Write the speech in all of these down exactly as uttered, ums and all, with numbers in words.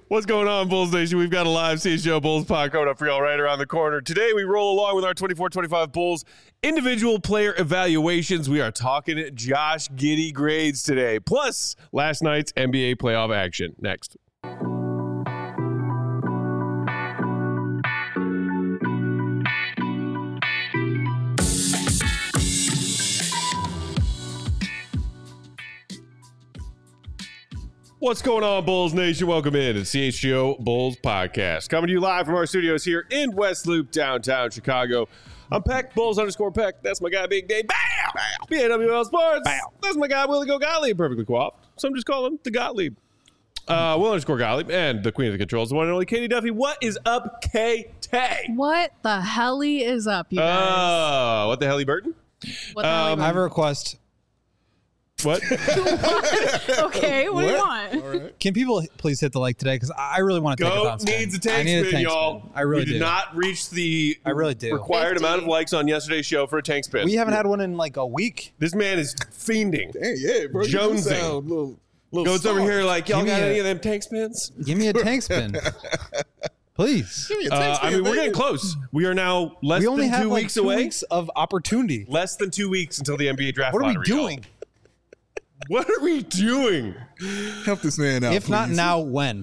What's going on, Bulls Nation? We've got a live C H G O Bulls pod coming up for y'all right around the corner. Today, we roll along with our twenty-four twenty-five Bulls individual player evaluations. We are talking Josh Giddey grades today, plus last night's N B A playoff action. Next. What's going on, Bulls Nation? Welcome in to the C H G O Bulls podcast. Coming to you live from our studios here in West Loop, downtown Chicago. I'm Peck, Bulls underscore Peck. That's my guy, Big Dave. Bow! Bow. B A W L Sports. Bow. That's my guy, Willie Go Gottlieb. Perfectly coiffed. Some just call him the Gottlieb. Uh, Will underscore Gottlieb. And the queen of the controls, the one and only Katie Duffy. What is up, K T? What the helly is up, you guys? Oh, uh, what the helly, Burton? What the um, helly, I have a request. What? what? Okay, what, what do you want? All right. Can people please hit the like today? Because I really want to take Goat a spin. needs a tank spin, a tank y'all. Spin. I really we did do. not reach the I really do. required fifty amount of likes on yesterday's show for a tank spin. We haven't had one in like a week. This man is fiending. Dang, yeah, bro. Jonesing. Little, little Goes star. over here like, y'all Give got me any a- of them tank spins? Give me a tank spin. Please. Give me a Uh, tank I spin, mean, we're baby. getting close. We are now less We only than have two like weeks two away. weeks of opportunity. Less than two weeks until the N B A draft What are we lottery, y'all. doing? What are we doing? Help this man out, If not please. now, when?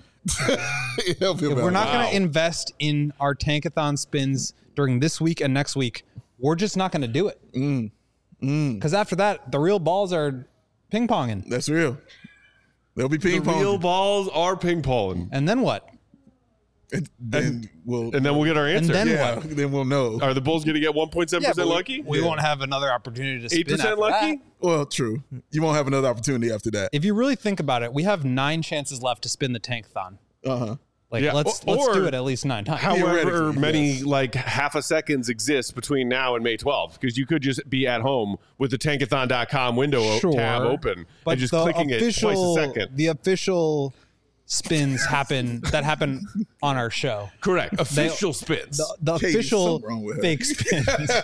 Help him If out. we're not Wow. going to invest in our tankathon spins during this week and next week, we're just not going to do it. Because Mm. Mm. after that, the real balls are ping ponging. That's real. They'll be The ping pong. real balls are ping ponging. And then what? And then we'll, And then we'll get our answer. then yeah, what? then we'll know. Are the Bulls going to get one point seven Yeah, percent but we- lucky? We Yeah. won't have another opportunity to spin eight percent after lucky? that. Well, true. You won't have another opportunity after that. If you really think about it, we have nine chances left to spin the tankathon. Uh huh. Like Yeah, let's or- let's do it at least nine times. However Theoretically, many yes. like half a seconds exist between now and May twelfth, because you could just be at home with the tankathon dot com window o- Sure, tab open but and just the clicking official, it twice a second. The official spins happen that happen on our show. Correct. Official spins. The, the Katie, official something wrong with her. fake spins.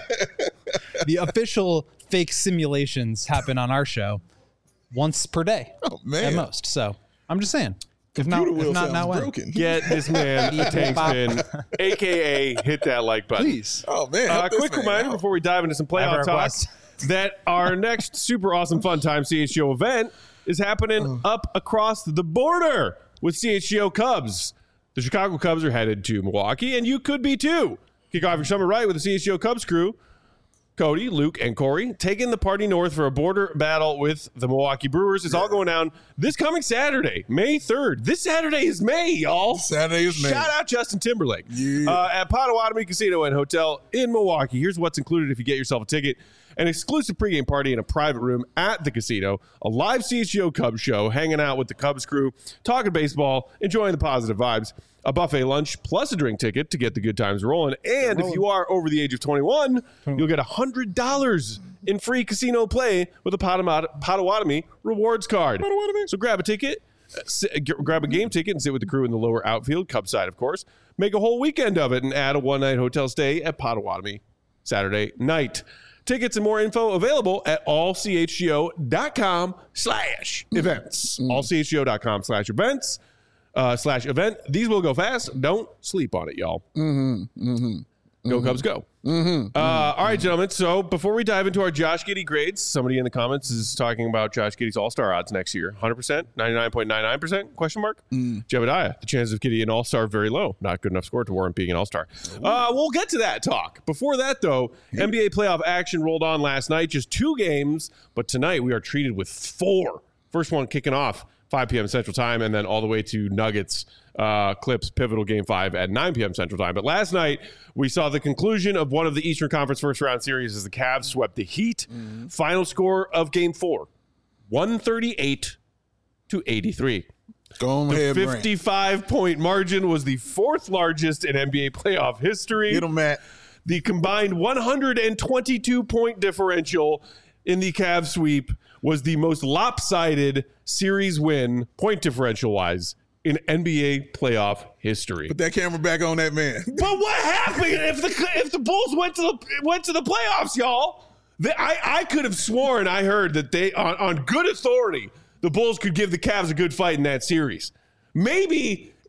The official fake simulations happen on our show once per day Oh, man. at most. So I'm just saying. If not, Computer wheel if not sounds now, when? broken. Get this man a tank spin, a k a hit that like button. Please. Oh, man. Uh, help this quick man reminder out. before we dive into some I have playoff a talk request. that our next super awesome fun time C H G O event is happening up across the border with C H G O Cubs. The Chicago Cubs are headed to Milwaukee, and you could be too. Kick off your summer right with the C H G O Cubs crew. Cody, Luke, and Corey taking the party north for a border battle with the Milwaukee Brewers. It's all going down this coming Saturday, May third. This Saturday is May, y'all. Saturday is May. Shout out Justin Timberlake. Yeah. Uh, at Potawatomi Casino and Hotel in Milwaukee. Here's what's included if you get yourself a ticket. An exclusive pregame party in a private room at the casino, a live C H G O Cubs show, hanging out with the Cubs crew, talking baseball, enjoying the positive vibes, a buffet lunch, plus a drink ticket to get the good times rolling. And if you are over the age of twenty-one, you'll get one hundred dollars in free casino play with a Potawat- Potawatomi rewards card. Potawatomi. So grab a ticket, uh, sit, g- grab a game ticket and sit with the crew in the lower outfield, Cubs side, of course. Make a whole weekend of it and add a one-night hotel stay at Potawatomi Saturday night. Tickets and more info available at allchgo.com slash events. allchgo.com slash events uh, slash event. These will go fast. Don't sleep on it, y'all. Mm-hmm. Mm-hmm. Go Cubs, go. Mm-hmm. Uh, all right, gentlemen. So before we dive into our Josh Giddey grades, somebody in the comments is talking about Josh Giddey's All-Star odds next year. one hundred percent, ninety-nine point nine nine percent, question mark? Mm. Jebediah, the chances of Giddey an All-Star very low. Not good enough score to warrant being an All-Star. Uh, we'll get to that talk. Before that, though, N B A playoff action rolled on last night. Just two games, but tonight we are treated with four. First one kicking off five p.m. Central Time, and then all the way to Nuggets uh, Clips pivotal game five at nine p.m. Central Time. But last night, we saw the conclusion of one of the Eastern Conference first round series as the Cavs swept the Heat. Mm-hmm. Final score of game four, one thirty-eight to eighty-three. Go The ahead, fifty-five point margin was the fourth largest in N B A playoff history. Get him, Matt. The combined one hundred twenty-two point differential in the Cavs sweep was the most lopsided series win, point differential-wise, in N B A playoff history. Put that camera back on that man. But what happened if the if the Bulls went to the went to the playoffs, y'all? They, I I could have sworn I heard that they on, on good authority the Bulls could give the Cavs a good fight in that series. Maybe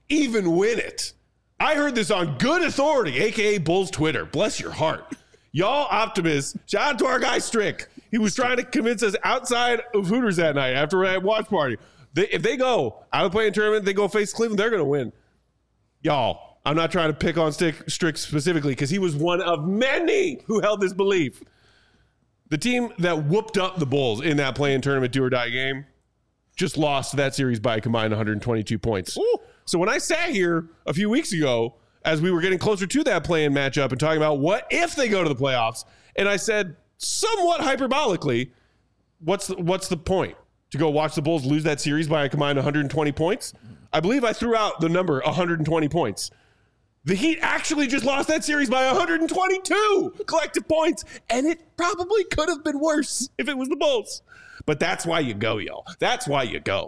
even win it. I heard this on good authority, a k a. Bulls Twitter. Bless your heart. Y'all optimists. Shout out to our guy Strick. He was trying to convince us outside of Hooters that night after a watch party. They, if they go out of the playing tournament, they go face Cleveland, they're going to win. Y'all, I'm not trying to pick on Stick, Strick specifically because he was one of many who held this belief. The team that whooped up the Bulls in that play-in tournament do-or-die game just lost that series by a combined one hundred twenty-two points. Ooh. So when I sat here a few weeks ago, as we were getting closer to that play-in matchup and talking about what if they go to the playoffs, and I said somewhat hyperbolically, what's the, what's the point? To go watch the Bulls lose that series by a combined one hundred twenty points? I believe I threw out the number one hundred twenty points. The Heat actually just lost that series by one hundred twenty-two collective points, and it probably could have been worse if it was the Bulls. But that's why you go, y'all. That's why you go.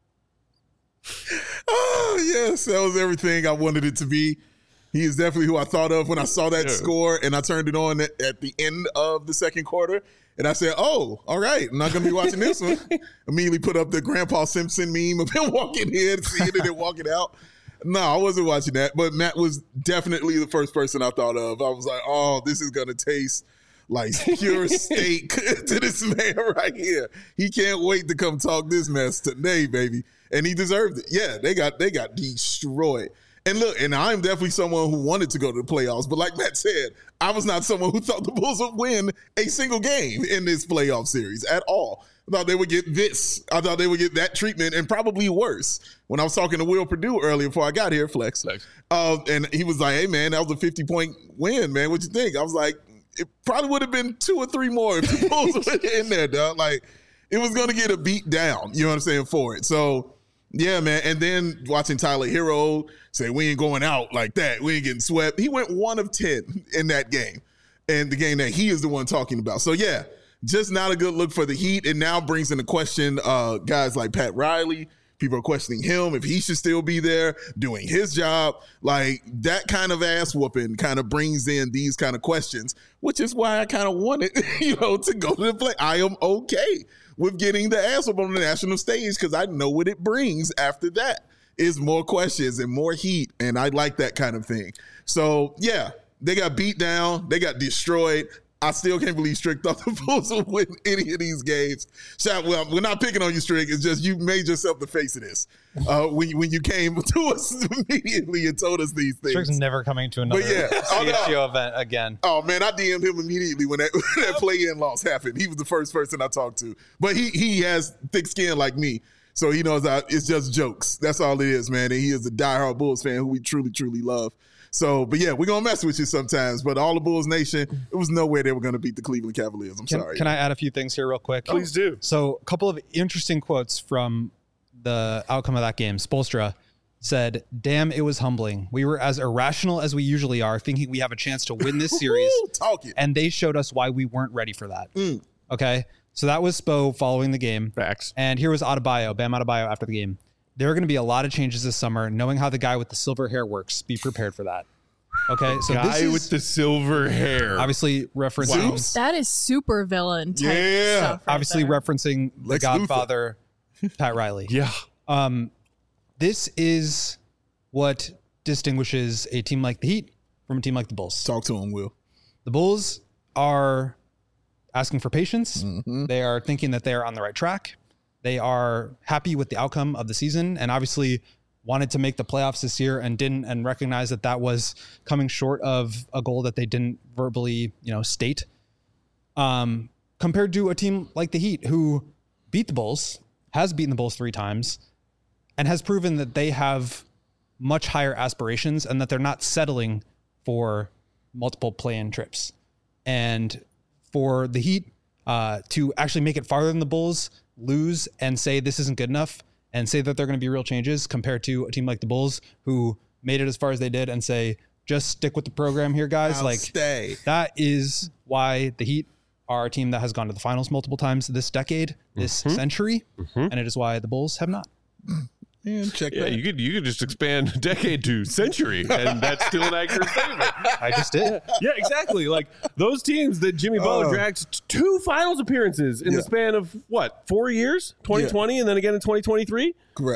Oh, yes. That was everything I wanted it to be. He is definitely who I thought of when I saw that yeah. score, and I turned it on at, at the end of the second quarter. And I said, oh, all right, I'm not going to be watching this one. Immediately put up the Grandpa Simpson meme of him walking in, seeing it and walking out. No, I wasn't watching that. But Matt was definitely the first person I thought of. I was like, oh, this is going to taste like pure steak to this man right here. He can't wait to come talk this mess today, baby. And he deserved it. Yeah, they got they got destroyed. And look, and I'm definitely someone who wanted to go to the playoffs. But like Matt said, I was not someone who thought the Bulls would win a single game in this playoff series at all. I thought they would get this. I thought they would get that treatment and probably worse. When I was talking to Will Perdue earlier before I got here, Flex, Flex. Uh, and he was like, hey, man, that was a fifty-point win, man. What you think? I was like, it probably would have been two or three more if the Bulls were in there, dog. Like, it was going to get a beat down, you know what I'm saying, for it. So, yeah, man. And then watching Tyler Hero say, we ain't going out like that. We ain't getting swept. He went one of ten in that game, and the game that he is the one talking about. So, yeah, just not a good look for the Heat. And now brings into question uh, guys like Pat Riley. People are questioning him if he should still be there doing his job. Like, that kind of ass whooping kind of brings in these kind of questions, which is why I kind of wanted, you know, to go to the play. I am okay with getting the ass whoop on the national stage because I know what it brings after that is more questions and more heat, and I like that kind of thing. So, yeah, they got beat down. They got destroyed. I still can't believe Strick thought the Bulls would win any of these games. Shout, well, we're not picking on you, Strick. It's just you made yourself the face of this uh, when, you, when you came to us immediately and told us these things. Strick's never coming to another yeah, C H G O oh, no. event again. Oh, man, I D M'd him immediately when that, when that play-in loss happened. He was the first person I talked to. But he he has thick skin like me, so he knows I, it's just jokes. That's all it is, man. And he is a diehard Bulls fan who we truly, truly love. So, but yeah, we're going to mess with you sometimes. But all the Bulls Nation, it was no way they were going to beat the Cleveland Cavaliers. I'm can, sorry. Can I add a few things here real quick? Please do. So, a couple of interesting quotes from the outcome of that game. Spoelstra said, damn, it was humbling. We were as irrational as we usually are, thinking we have a chance to win this series. Talk it. And they showed us why we weren't ready for that. Mm. Okay? So that was Spo following the game. Facts. And here was Adebayo, Bam Adebayo after the game. There are going to be a lot of changes this summer. Knowing how the guy with the silver hair works, be prepared for that. Okay, so guy this is with the silver hair, obviously referencing. Wow. That is super villain type Yeah. stuff right obviously there. referencing the Lex Godfather, Pat Riley. Yeah. Um, this is what distinguishes a team like the Heat from a team like the Bulls. Talk to him, Will. The Bulls are asking for patience. Mm-hmm. They are thinking that they are on the right track. They are happy with the outcome of the season, and obviously wanted to make the playoffs this year and didn't, and recognize that that was coming short of a goal that they didn't verbally, you know, state. Um, compared to a team like the Heat, who beat the Bulls, has beaten the Bulls three times, and has proven that they have much higher aspirations and that they're not settling for multiple play-in trips. And for the Heat uh, to actually make it farther than the Bulls, lose and say this isn't good enough, and say that they're going to be real changes compared to a team like the Bulls who made it as far as they did and say, just stick with the program here, guys. I'll like stay. That is why the Heat are a team that has gone to the finals multiple times this decade, this Mm-hmm. century. Mm-hmm. And it is why the Bulls have not. And check Yeah, that. you could you could just expand decade to century, and that's still an accurate statement. I just did. Yeah, exactly. Like those teams that Jimmy Butler Oh. dragged t- two finals appearances in Yeah. the span of what, four years? twenty twenty and then again in twenty twenty-three. Correct.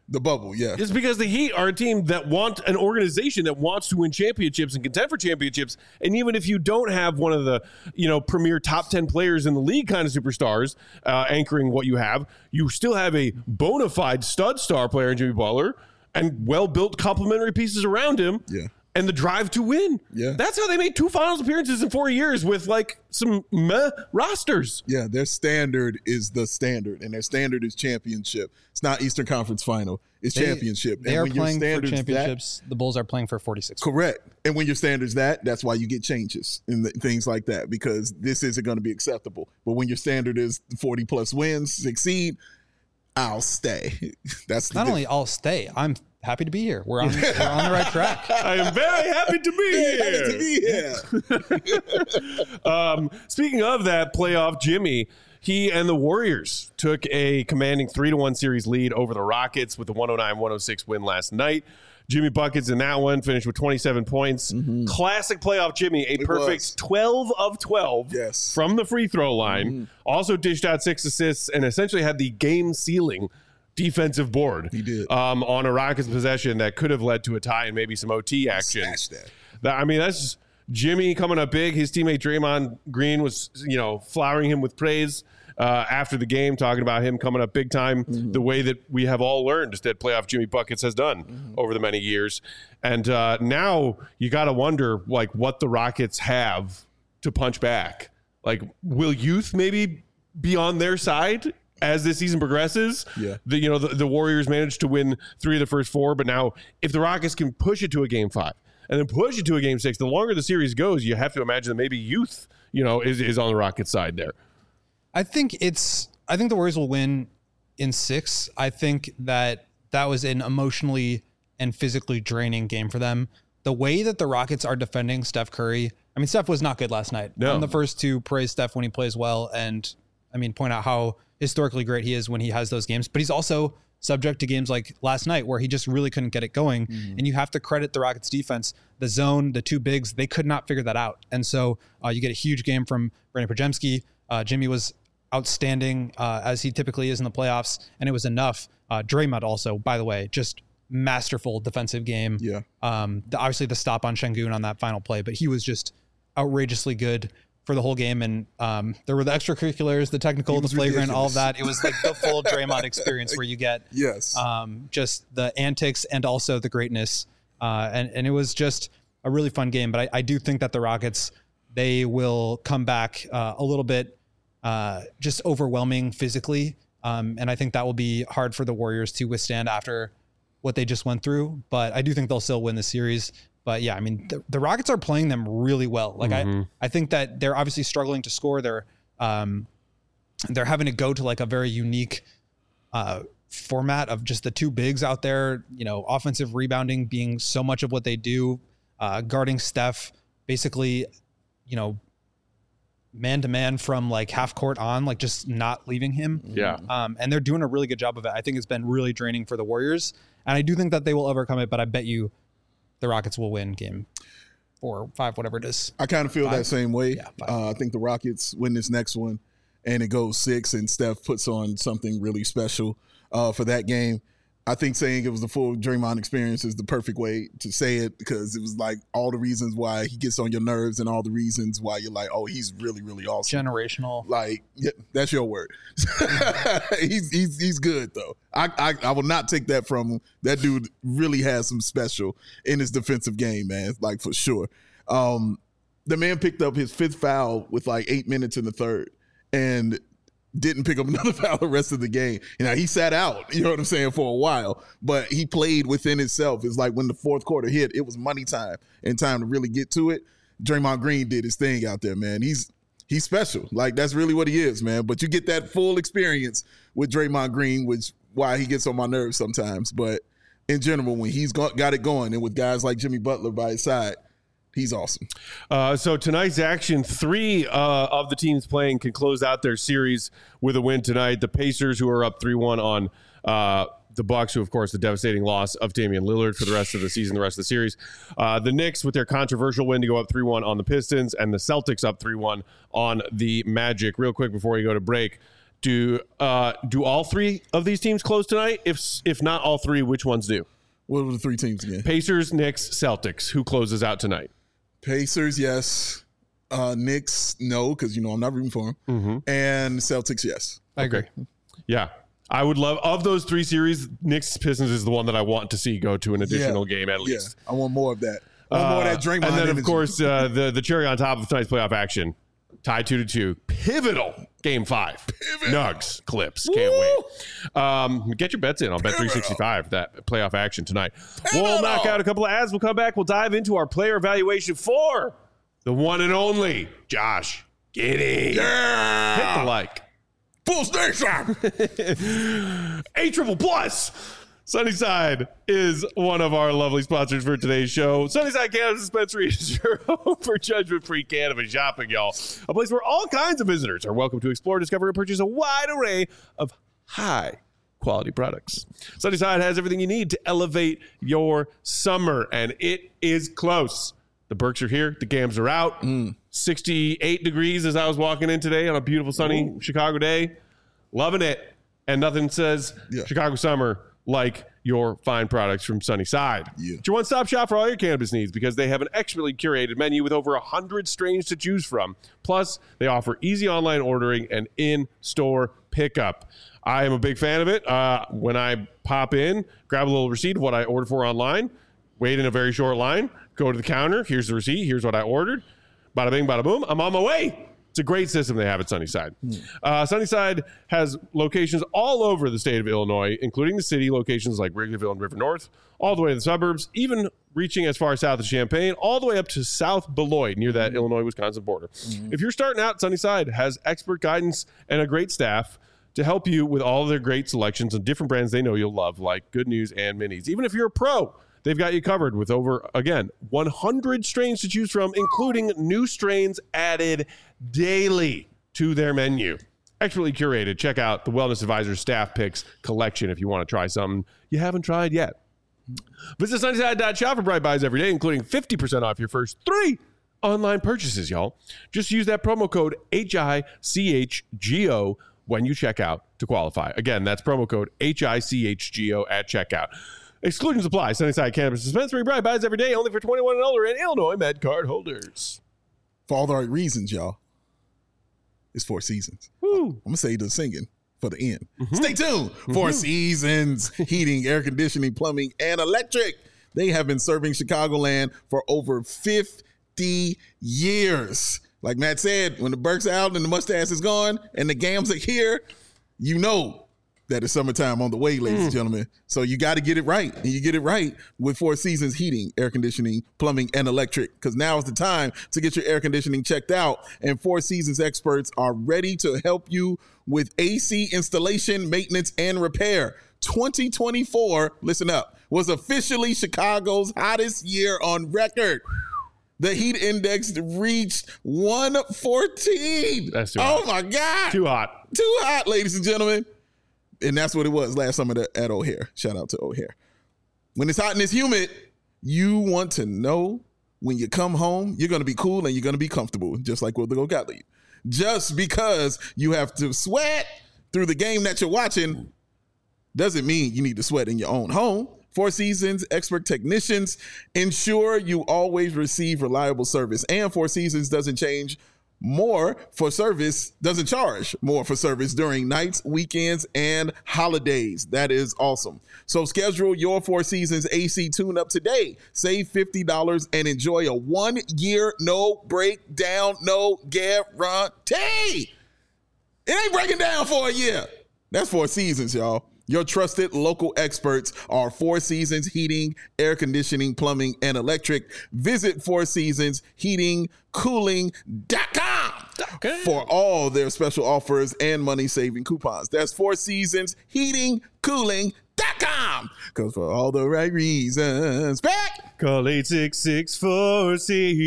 The bubble, yeah. It's because the Heat are a team that want an organization that wants to win championships and contend for championships. And even if you don't have one of the, you know, premier top ten players in the league kind of superstars uh, anchoring what you have, you still have a bona fide stud star player in Jimmy Butler and well-built complementary pieces around him. Yeah. And the drive to win. Yeah. That's how they made two finals appearances in four years with like some meh rosters. Yeah, their standard is the standard, and their standard is championship. It's not Eastern Conference Final. It's They, championship. They and are when your playing for standard's championships. That, the Bulls are playing for forty-six. correct. And when your standard's that, that's why you get changes and th- things like that, because this isn't going to be acceptable. But when your standard is forty plus wins, succeed, I'll stay. That's the Not diff- only I'll stay, I'm happy to be here. We're on, we're on the right track. I am very happy to be here. Happy to be here. Um, speaking of that playoff, Jimmy, he and the Warriors took a commanding three to one series lead over the Rockets with a one oh nine one oh six win last night. Jimmy buckets in that one, finished with twenty-seven points. Mm-hmm. Classic playoff Jimmy, a It perfect was. twelve of twelve Yes. from the free throw line. Mm-hmm. Also dished out six assists and essentially had the game-sealing defensive board. He did. Um, on a Rockets possession that could have led to a tie and maybe some O T action. Smash that. That, I mean, that's just Jimmy coming up big. His teammate Draymond Green was, you know, flowering him with praise uh, after the game, talking about him coming up big time, mm-hmm. the way that we have all learned that playoff Jimmy Buckets has done mm-hmm. over the many years. And uh, now you got to wonder, like, what the Rockets have to punch back. Like, will youth maybe be on their side as this season progresses? Yeah. The, you know, the, the Warriors managed to win three of the first four, but now if the Rockets can push it to a game five and then push it to a game six, the longer the series goes, you have to imagine that maybe youth, you know, is, is on the Rockets side there. I think it's, I think the Warriors will win in six. I think that that was an emotionally and physically draining game for them. The way that the Rockets are defending Steph Curry, I mean, Steph was not good last night. No. I'm the first to praise Steph when he plays well and, I mean, point out how historically great he is when he has those games, but he's also subject to games like last night where he just really couldn't get it going. Mm-hmm. And you have to credit the Rockets defense, the zone, the two bigs, they could not figure that out. And so uh, you get a huge game from Brandon Podziemski. Uh, Jimmy was outstanding uh, as he typically is in the playoffs, and it was enough. Uh, Draymond also, by the way, just masterful defensive game. Yeah. Um, the, obviously the stop on Şengün on that final play, but he was just outrageously good for the whole game. And um, there were the extracurriculars, the technical, the flagrant, ridiculous. All of that. It was like the full Draymond experience where you get yes, um, just the antics and also the greatness. Uh, and, and it was just a really fun game. But I, I do think that the Rockets, they will come back uh, a little bit uh, just overwhelming physically. Um, and I think that will be hard for the Warriors to withstand after what they just went through. But I do think they'll still win the series. But yeah, I mean, the, the Rockets are playing them really well. Like mm-hmm. I, I think that they're obviously struggling to score. They're, um, they're having to go to like a very unique uh, format of just the two bigs out there. You know, offensive rebounding being so much of what they do, uh, guarding Steph, basically, you know, man to man from like half court on, like just not leaving him. Yeah. Um, and they're doing a really good job of it. I think it's been really draining for the Warriors, and I do think that they will overcome it. But I bet you the Rockets will win game four or five, whatever it is. I kind of feel Five? that same way. Yeah, uh, I think the Rockets win this next one and it goes six and Steph puts on something really special uh, for that game. I think saying it was the full Draymond experience is the perfect way to say it, because it was like all the reasons why he gets on your nerves and all the reasons why you're like, oh, he's really, really awesome. Generational. Like, yeah, that's your word. he's he's he's good though. I, I I will not take that from him. That dude really has some special in his defensive game, man. Like for sure. Um, the man picked up his fifth foul with like eight minutes in the third, and didn't pick up another foul the rest of the game. You know, he sat out, you know what I'm saying, for a while, but he played within himself. It's like when the fourth quarter hit, it was money time and time to really get to it. Draymond Green did his thing out there, man. He's he's special. Like, that's really what he is, man. But you get that full experience with Draymond Green, which why he gets on my nerves sometimes. But in general, when he's got, got it going, and with guys like Jimmy Butler by his side, he's awesome. Uh, so tonight's action, three uh, of the teams playing can close out their series with a win tonight. The Pacers, who are up three one on uh, the Bucks, who, of course, the devastating loss of Damian Lillard for the rest of the season, the rest of the series. Uh, the Knicks, with their controversial win, to go up three one on the Pistons, and the Celtics up three one on the Magic. Real quick before we go to break, Do uh, do all three of these teams close tonight? If if not all three, which ones do? What were the three teams again? Pacers, Knicks, Celtics. Who closes out tonight? Pacers, yes. Uh, Knicks, no, because, you know, I'm not rooting for them. Mm-hmm. And Celtics, yes. I agree. Okay. Yeah. I would love, of those three series, Knicks Pistons is the one that I want to see go to an additional Yeah. game at least. Yeah, I want more of that. I want more of that Draymond Uh, and then, energy. of course, uh, the, the cherry on top of tonight's playoff action, tied two to two. Pivotal game five. Nugs, Clips. Can't wait. Um, get your bets in on Bet three sixty-five, that playoff action tonight. We'll knock out a couple of ads. We'll come back. We'll dive into our player evaluation for the one and only Josh Giddey. Yeah. Hit the like. Full station. A triple plus. Sunnyside is one of our lovely sponsors for today's show. Sunnyside Cannabis Dispensary is your home for judgment-free cannabis shopping, y'all. A place where all kinds of visitors are welcome to explore, discover, and purchase a wide array of high-quality products. Sunnyside has everything you need to elevate your summer, and it is close. The Berks are here. The Gams are out. Mm. sixty-eight degrees as I was walking in today on a beautiful, sunny Ooh. Chicago day. Loving it. And nothing says yeah. Chicago summer like your fine products from Sunnyside. Yeah. It's your one-stop shop for all your cannabis needs because they have an expertly curated menu with over one hundred strains to choose from. Plus, they offer easy online ordering and in-store pickup. I am a big fan of it. Uh, when I pop in, grab a little receipt of what I ordered for online, wait in a very short line, go to the counter, here's the receipt, here's what I ordered, bada bing, bada boom, I'm on my way. It's a great system they have at Sunnyside. Mm. Uh, Sunnyside has locations all over the state of Illinois, including the city, locations like Wrigleyville and River North, all the way to the suburbs, even reaching as far south as Champaign, all the way up to South Beloit, near that mm. Illinois-Wisconsin border. Mm. If you're starting out, Sunnyside has expert guidance and a great staff to help you with all of their great selections and different brands they know you'll love, like Good News and Minis. Even if you're a pro, they've got you covered with over, again, one hundred strains to choose from, including new strains added daily to their menu. Expertly curated. Check out the Wellness Advisor Staff Picks collection if you want to try something you haven't tried yet. Visit Sunnyside dot shop for bright buys every day, including fifty percent off your first three online purchases, y'all. Just use that promo code H I C H G O when you check out to qualify. Again, that's promo code H I C H G O at checkout. Exclusions apply. Sunnyside Cannabis Dispensary. Bright buys every day, only for twenty-one and older and Illinois Med card holders. For all the right reasons, y'all. It's Four Seasons. Woo. I'm going to say the singing for the end. Mm-hmm. Stay tuned. Mm-hmm. Four Seasons, heating, air conditioning, plumbing, and electric. They have been serving Chicagoland for over fifty years. Like Matt said, when the Berks out and the mustache is gone and the Gams are here, you know that it's summertime on the way, ladies mm. and gentlemen. So you got to get it right. And you get it right with Four Seasons heating, air conditioning, plumbing, and electric. Because now is the time to get your air conditioning checked out. And Four Seasons experts are ready to help you with A C installation, maintenance, and repair. twenty twenty-four, listen up, was officially Chicago's hottest year on record. The heat index reached one fourteen. That's too oh, hot. my God. Too hot. Too hot, ladies and gentlemen. And that's what it was last summer at O'Hare. Shout out to O'Hare. When it's hot and it's humid, you want to know when you come home, you're going to be cool and you're going to be comfortable, just like with the Go Gottlieb. Just because you have to sweat through the game that you're watching doesn't mean you need to sweat in your own home. Four Seasons expert technicians ensure you always receive reliable service. And Four Seasons doesn't change more for service, doesn't charge more for service during nights, weekends, and holidays. That is awesome. So schedule your Four Seasons A C tune-up today. Save fifty dollars and enjoy a one-year no breakdown, no guarantee. It ain't breaking down for a year. That's Four Seasons, y'all. Your trusted local experts are Four Seasons Heating, Air Conditioning, Plumbing, and Electric. Visit Four Seasons Heating Cooling dot com okay. for all their special offers and money-saving coupons. That's Four Seasons Heating Cooling dot com. Because for all the right reasons, back. Call eight six six four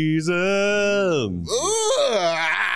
Seasons. Ooh.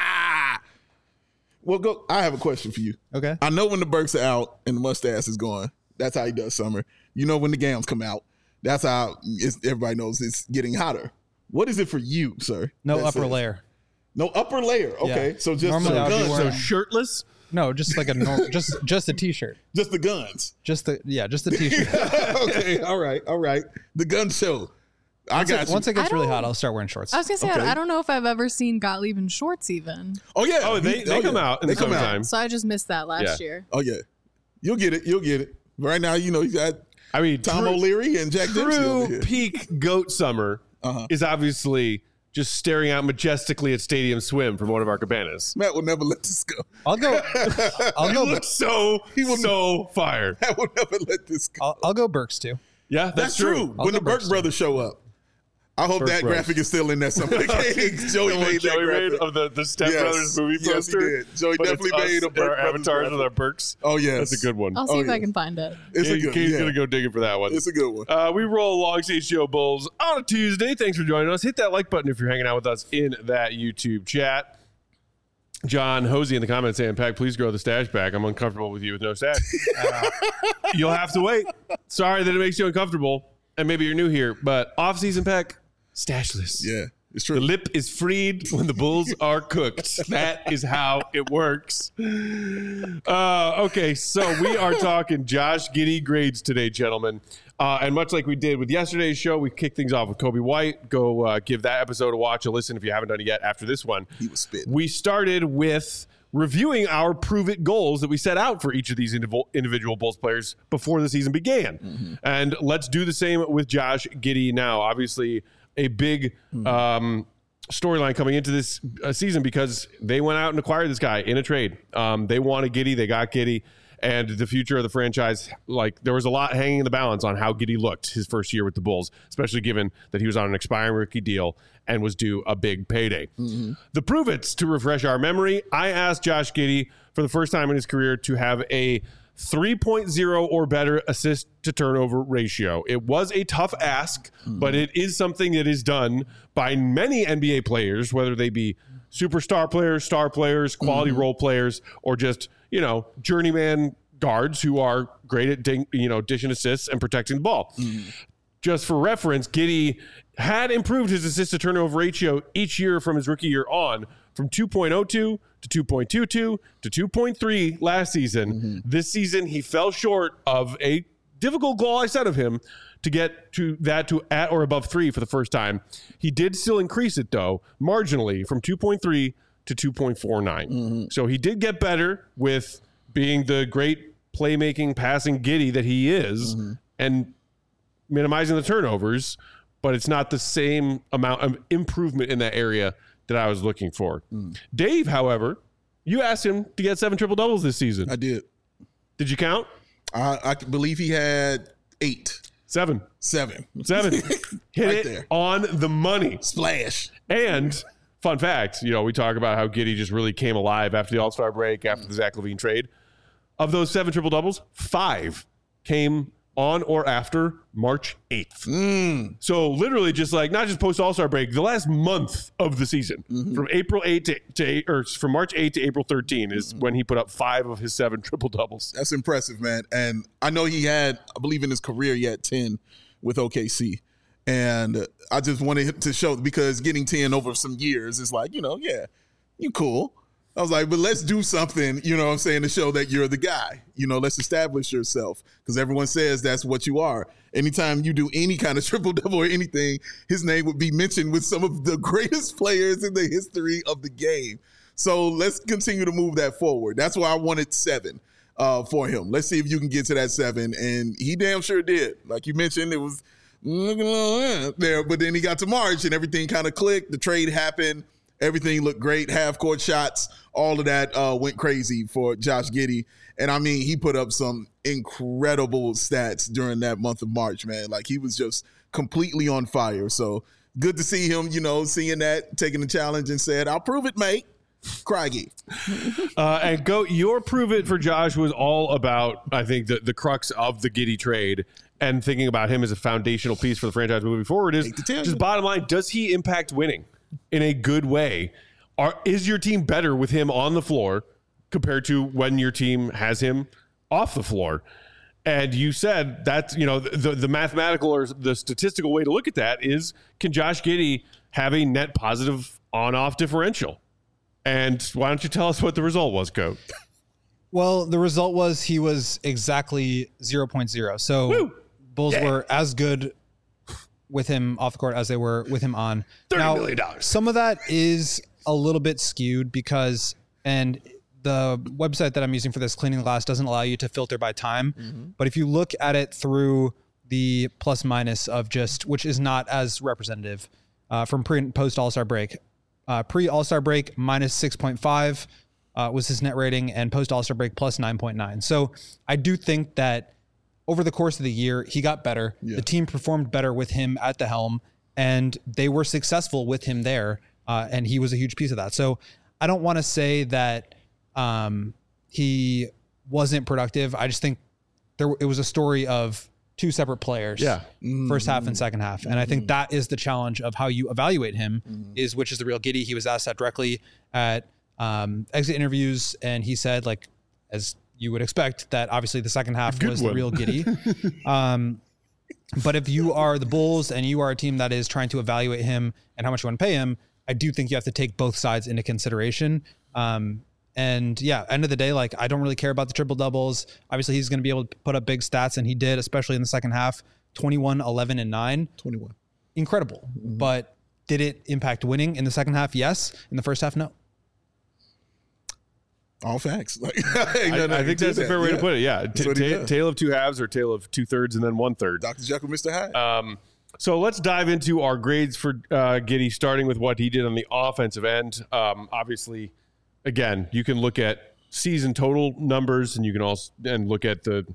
Well, go. I have a question for you. Okay. I know when the Berks are out and the mustache is gone, that's how he does summer. You know when the Gams come out, that's how it's, everybody knows it's getting hotter. What is it for you, sir? No That's upper it. layer. No upper layer. Okay. Yeah. So just Normally so, I would be So wearing- shirtless? No, just like a normal, just just a t-shirt. Just the guns. Just the yeah, just the t-shirt. Okay, all right, all right. The gun show. I Once got it, you. once it gets I really don't- hot, I'll start wearing shorts. I was gonna say, Okay. I, I don't know if I've ever seen Gottlieb in shorts even. oh yeah. Oh, they, He- they oh, come yeah. out in They the come out. summertime. So I just missed that last Yeah. year. Oh yeah. You'll get it. You'll get it. Right now, you know, you got I mean, Tom true- O'Leary and Jack Dempsey over True here. peak goat summer Uh-huh. is obviously just staring out majestically at Stadium Swim from one of our cabanas. Matt will never let this go. I'll go. I'll He go. looks so, will- so fire. Matt will never let this go. I'll, I'll go Burks too. Yeah, that's, That's true. I'll When go the Burke Burks, brothers show up, I hope Burke that brothers. graphic is still in there somewhere. Joey made that Joey made graphic. of the, the Step Yes. Brothers movie Yes, he poster. did. Joey But it's definitely us made a and Burke our Brothers avatars graphic. with our Burks. Oh yes, That's a good one. I'll see Oh, if I yeah. can find it. It's a He- good. He's yeah. gonna go digging for that one. It's a good one. Uh, we roll along C H G O Bulls on a Tuesday. Thanks for joining us. Hit that like button if you're hanging out with us in that YouTube chat. John Hosey in the comments saying, Pack, please grow the stash back. I'm uncomfortable with you with no stash. Uh, you'll have to wait. Sorry that it makes you uncomfortable. And maybe you're new here, but off-season Pack, stashless. Yeah, it's The true. lip is freed when the bulls are cooked. That is how it works. Uh, okay, so we are talking Josh Giddey grades today, gentlemen. Uh, and much like we did with yesterday's show, we kicked things off with Kobe White. Go uh, give that episode a watch, a listen if you haven't done it yet after this one. He was spitting. We started with reviewing our prove it goals that we set out for each of these individual, individual Bulls players before the season began. Mm-hmm. And let's do the same with Josh Giddey now. Obviously, a big um, storyline coming into this uh, season because they went out and acquired this guy in a trade. Um, they wanted Giddey, they got Giddey, and the future of the franchise, like there was a lot hanging in the balance on how Giddey looked his first year with the Bulls, especially given that he was on an expiring rookie deal and was due a big payday. Mm-hmm. The prove it's to refresh our memory. I asked Josh Giddey for the first time in his career to have a three point oh or better assist to turnover ratio. It was a tough ask, Mm-hmm. but it is something that is done by many N B A players, whether they be superstar players, star players, quality Mm-hmm. role players, or just, you know, journeyman guards who are great at ding, you know, dishing assists and protecting the ball. Mm-hmm. Just for reference, Giddey had improved his assist to turnover ratio each year from his rookie year on, from two point oh two to two point two two to two point three last season. Mm-hmm. This season, he fell short of a difficult goal I set of him to get to that to at or above three for the first time. He did still increase it, though, marginally from two point three to two point four nine. Mm-hmm. So he did get better with being the great playmaking, passing Giddey that he is, Mm-hmm. and minimizing the turnovers, but it's not the same amount of improvement in that area that I was looking for. Mm. Dave, however, you asked him to get seven triple doubles this season. I did. Did you count? I, I believe he had eight, Seven. seven. Seven. Hit Right it there. on the money. Splash. And fun fact, you know, we talk about how Giddey just really came alive after the All-Star break, after the Zach LaVine trade. Of those seven triple doubles, five came on or after March eighth. Mm. So literally just like, not just post All-Star break, the last month of the season, Mm-hmm. from April eighth to, to or from March eighth to April thirteenth is when he put up five of his seven triple doubles. That's impressive, man. And I know he had, I believe in his career, he had ten with O K C. And I just wanted to show, because getting ten over some years is like, you know, yeah, you cool. I was like, but let's do something, you know what I'm saying, to show that you're the guy. You know, let's establish yourself, because everyone says that's what you are. Anytime you do any kind of triple-double or anything, his name would be mentioned with some of the greatest players in the history of the game. So let's continue to move that forward. That's why I wanted seven uh, for him. Let's see if you can get to that seven. And he damn sure did. Like you mentioned, it was looking a little there, but then he got to March and everything kind of clicked. The trade happened. Everything looked great. Half court shots, all of that uh, went crazy for Josh Giddey. And I mean, he put up some incredible stats during that month of March, man. Like he was just completely on fire. So good to see him, you know, seeing that, taking the challenge and said, I'll prove it, mate. Craigie. Uh, and go, your prove it for Josh was all about, I think, the, the crux of the Giddey trade and thinking about him as a foundational piece for the franchise moving forward is Hate to tell you. just bottom line, does he impact winning in a good way? Are, is your team better with him on the floor compared to when your team has him off the floor? And you said that, you know, the, the mathematical or the statistical way to look at that is, can Josh Giddey have a net positive on-off differential? And why don't you tell us what the result was, Coach? Well, the result was he was exactly zero point zero. So Woo! Bulls yeah. were as good with him off the court as they were with him on. thirty million dollars. Some of that is a little bit skewed because, and the website that I'm using for this, Cleaning the Glass, doesn't allow you to filter by time. Mm-hmm. But if you look at it through the plus minus of just, which is not as representative uh, from pre and post All-Star break. Uh, pre All-Star break minus six point five uh, was his net rating, and post All-Star break plus nine point nine. So I do think that over the course of the year, he got better. Yeah. The team performed better with him at the helm, and they were successful with him there. Uh, and he was a huge piece of that. So I don't want to say that um, he wasn't productive. I just think there it was a story of two separate players, yeah, first half and second half. And I think that is the challenge of how you evaluate him mm-hmm. is which is the real Giddey. He was asked that directly at um, exit interviews. And he said, like, as you would expect, that obviously the second half Good was one. the real Giddey. um, but if you are the Bulls and you are a team that is trying to evaluate him and how much you want to pay him, I do think you have to take both sides into consideration. Um, And yeah, end of the day, like I don't really care about the triple doubles. Obviously he's going to be able to put up big stats, and he did, especially in the second half, twenty-one, eleven and nine. twenty-one. Incredible. Mm-hmm. But did it impact winning in the second half? Yes. In the first half, no. All facts. Like, I, I think that's that. a fair way yeah. to put it. Yeah. T- t- tale of two halves or tale of two thirds and then one third. Doctor Jekyll, Mister Hyde. Um, so let's dive into our grades for uh, Giddey, starting with what he did on the offensive end. Um, obviously, again, you can look at season total numbers, and you can also and look at the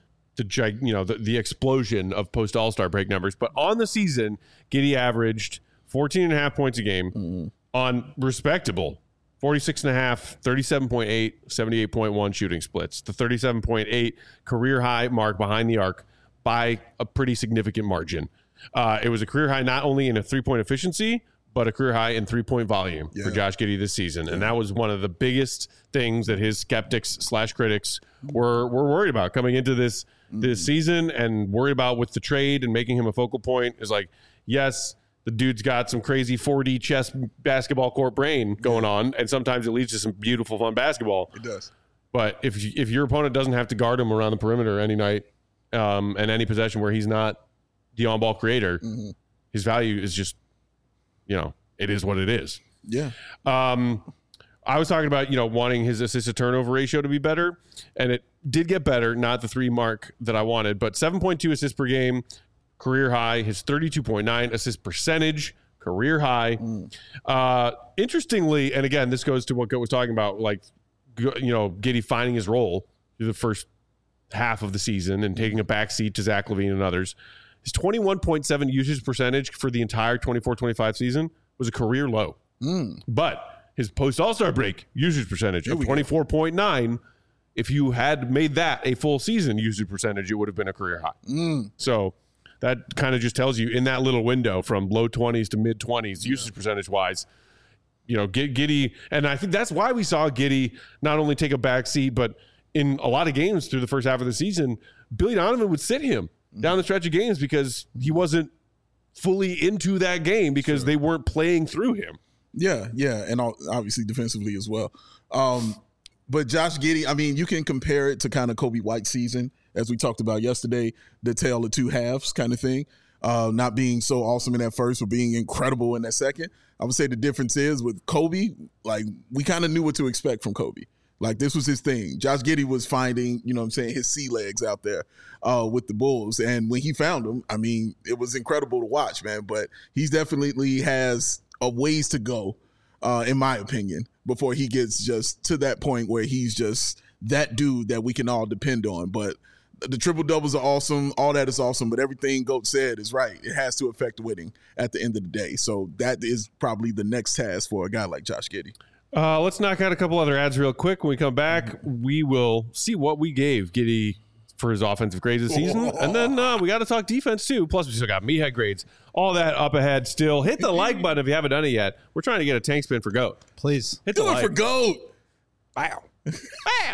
the you know the, the explosion of post All-Star break numbers. But on the season, Giddey averaged fourteen and a half points a game mm-hmm. on respectable forty-six and a half, thirty-seven point eight, seventy-eight point one shooting splits. The thirty-seven point eight career high mark behind the arc by a pretty significant margin. Uh, it was a career high not only in a three-point efficiency, but a career high in three-point volume yeah. for Josh Giddey this season. Yeah. And that was one of the biggest things that his skeptics slash critics were were worried about coming into this mm-hmm. this season, and worried about with the trade and making him a focal point. Is like, yes, the dude's got some crazy four D chess basketball court brain going yeah. on, and sometimes it leads to some beautiful, fun basketball. It does. But if you, if your opponent doesn't have to guard him around the perimeter any night um, and any possession where he's not the on-ball creator, mm-hmm. his value is just, you know, it is what it is. Yeah. Um, I was talking about, you know, wanting his assist to turnover ratio to be better, and it did get better, not the three mark that I wanted, but seven point two assists per game, career high. His thirty-two point nine assist percentage, career high. Mm. Uh, interestingly, and again, this goes to what Goat was talking about, like, you know, Giddey finding his role through the first half of the season and taking a backseat to Zach LaVine and others. His twenty-one point seven usage percentage for the entire twenty-four twenty-five season was a career low. Mm. But his post All-Star break usage percentage of twenty-four point nine, if you had made that a full season usage percentage, it would have been a career high. Mm. So that kind of just tells you in that little window from low twenties to mid twenties, yeah. usage percentage wise, you know, Giddey, and I think that's why we saw Giddey not only take a back seat, but in a lot of games through the first half of the season, Billy Donovan would sit him down the stretch of games because he wasn't fully into that game because sure. they weren't playing through him. Yeah, yeah, and obviously defensively as well. Um, but Josh Giddey, I mean, you can compare it to kind of Kobe White's season, as we talked about yesterday, the tale of two halves kind of thing. Uh, not being so awesome in that first, but being incredible in that second. I would say the difference is with Kobe, like we kind of knew what to expect from Kobe. Like this was his thing. Josh Giddey was finding, you know what I'm saying, his sea legs out there uh, with the Bulls. And when he found them, I mean, it was incredible to watch, man. But he's definitely has a ways to go, uh, in my opinion, before he gets just to that point where he's just that dude that we can all depend on. But the triple doubles are awesome. All that is awesome. But everything Goat said is right. It has to affect winning at the end of the day. So that is probably the next task for a guy like Josh Giddey. Uh, let's knock out a couple other ads real quick. When we come back, we will see what we gave Giddey for his offensive grades this season. And then uh, we got to talk defense, too. Plus, we still got meathead grades. All that up ahead still. Hit the like button if you haven't done it yet. We're trying to get a tank spin for Goat. Please. Hit the Do like. it for Goat. Wow. Wow.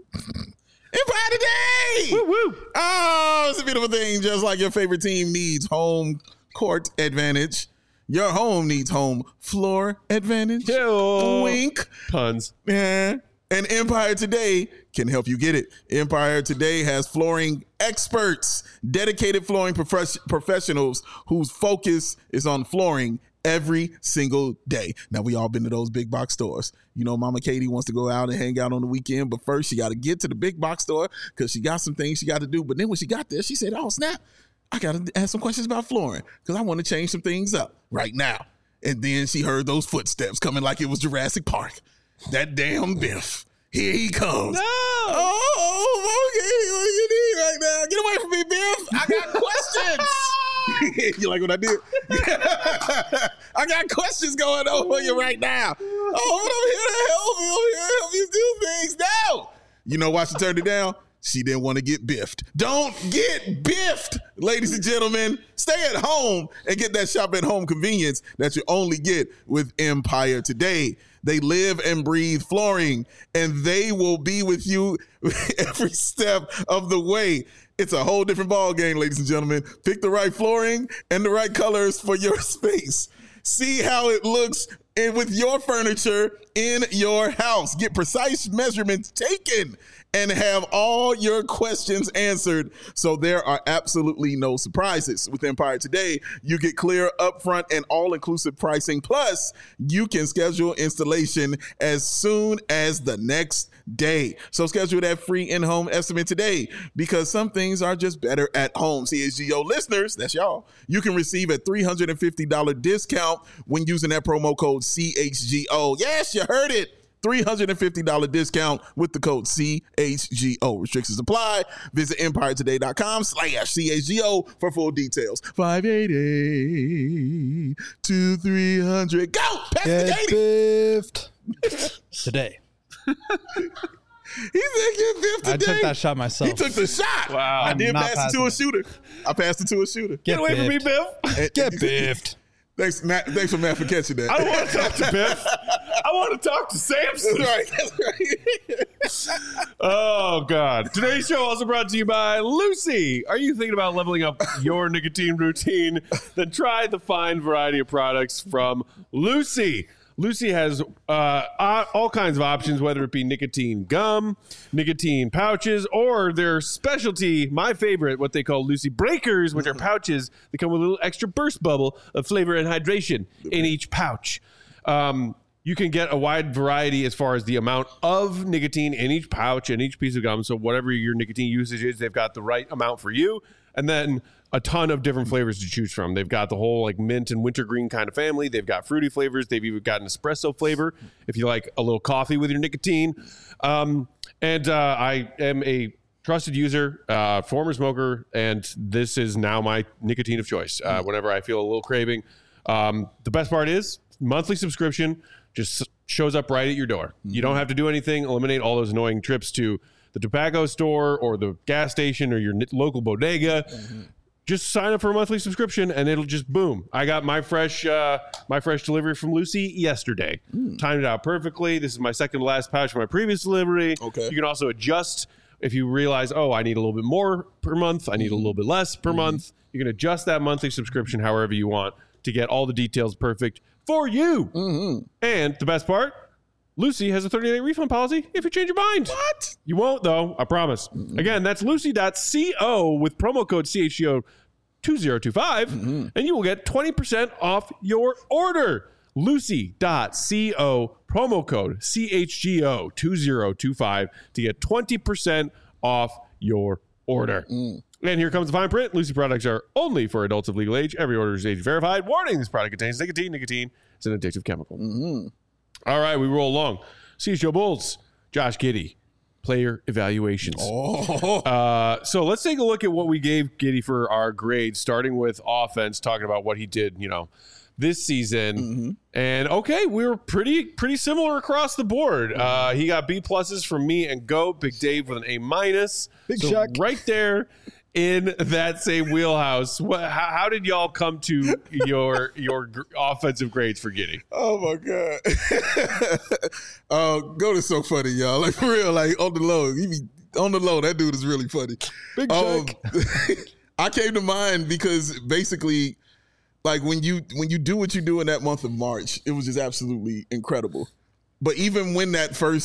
Empire today. Woo woo. Oh, it's a beautiful thing. Just like your favorite team needs home court advantage, your home needs home floor advantage. Ew. Wink. Puns. Yeah. And Empire Today can help you get it. Empire Today has flooring experts, dedicated flooring prof- professionals whose focus is on flooring every single day. Now, we all been to those big box stores. You know, Mama Katie wants to go out and hang out on the weekend, but first she got to get to the big box store because she got some things she got to do. But then when she got there, she said, oh, snap, I got to ask some questions about flooring because I want to change some things up right now. And then she heard those footsteps coming like it was Jurassic Park. That damn Biff. Here he comes. No. Oh, okay. What do you need right now? Get away from me, Biff. I got questions. You like what I did? I got questions going on for you right now. Oh, but I'm here to help you. I'm here to help you do things now. You know why she turned it down? She didn't want to get biffed. Don't get biffed, ladies and gentlemen. Stay at home and get that shop at home convenience that you only get with Empire Today. They live and breathe flooring, and they will be with you every step of the way. It's a whole different ball game, ladies and gentlemen. Pick the right flooring and the right colors for your space. See how it looks in, with your furniture in your house. Get precise measurements taken and have all your questions answered, so there are absolutely no surprises. With Empire Today, you get clear, upfront, and all-inclusive pricing. Plus, you can schedule installation as soon as the next day. So schedule that free in-home estimate today, because some things are just better at home. C H G O listeners, that's y'all, you can receive a three hundred fifty dollars discount when using that promo code C H G O. Yes, you heard it. three hundred fifty dollars discount with the code C H G O. Restrictions apply. Visit empiretoday.com slash CHGO for full details. five eighty, two three hundred. Go! Pass Get biffed today. He said get biffed today. I took that shot myself. He took the shot. Wow. I did I'm pass not it to a passing shooter. I passed it to a shooter. Get, Get away from me, biffed. Biff. Get biffed. Thanks, Matt. Thanks for Matt for catching that. I don't want to talk to Biff. I want to talk to Samson. That's right. That's right. Oh, God. Today's show also brought to you by Lucy. Are you thinking about leveling up your nicotine routine? Then try the fine variety of products from Lucy. Lucy has uh, all kinds of options, whether it be nicotine gum, nicotine pouches, or their specialty, my favorite, what they call Lucy Breakers, which are pouches that come with a little extra burst bubble of flavor and hydration in each pouch. Um, you can get a wide variety as far as the amount of nicotine in each pouch and each piece of gum. So whatever your nicotine usage is, they've got the right amount for you. And then a ton of different flavors to choose from. They've got the whole like mint and wintergreen kind of family. They've got fruity flavors. They've even got an espresso flavor if you like a little coffee with your nicotine. Um, and uh, I am a trusted user, uh, former smoker, and this is now my nicotine of choice uh, whenever I feel a little craving. Um, the best part is monthly subscription just shows up right at your door. Mm-hmm. You don't have to do anything. Eliminate all those annoying trips to the tobacco store or the gas station or your local bodega. Mm-hmm. Just sign up for a monthly subscription and it'll just boom. I got my fresh uh, my fresh delivery from Lucy yesterday. Mm. Timed it out perfectly. This is my second to last pouch from my previous delivery. Okay. You can also adjust if you realize, oh, I need a little bit more per month. I need a little bit less per mm. month. You can adjust that monthly subscription however you want to get all the details perfect for you. Mm-hmm. And the best part, Lucy has a thirty-day refund policy if you change your mind. What? You won't, though. I promise. Mm-hmm. Again, that's lucy dot co with promo code C H G O two zero two five, mm-hmm. and you will get twenty percent off your order. lucy dot co, promo code C H G O two zero two five to get twenty percent off your order. Mm. And here comes the fine print. Lucy products are only for adults of legal age. Every order is age verified. Warning, this product contains nicotine. Nicotine is an addictive chemical. Mm-hmm. All right, we roll along. C H G O Bulls, Josh Giddey, player evaluations. Oh. Uh, so let's take a look at what we gave Giddey for our grade, starting with offense, talking about what he did, you know, this season. Mm-hmm. And okay, we were pretty pretty similar across the board. Mm-hmm. Uh, he got B pluses from me and Goat, Big Dave with an A minus. Big so Chuck. Right there in that same wheelhouse. What, how, how did y'all come to your your gr- offensive grades for Giddey? Oh my god! uh, Goat is so funny, y'all. Like for real, like on the low, he be on the low. That dude is really funny. Big um, Chuck. I came to mind because basically, like when you when you do what you do in that month of March, it was just absolutely incredible. But even when that first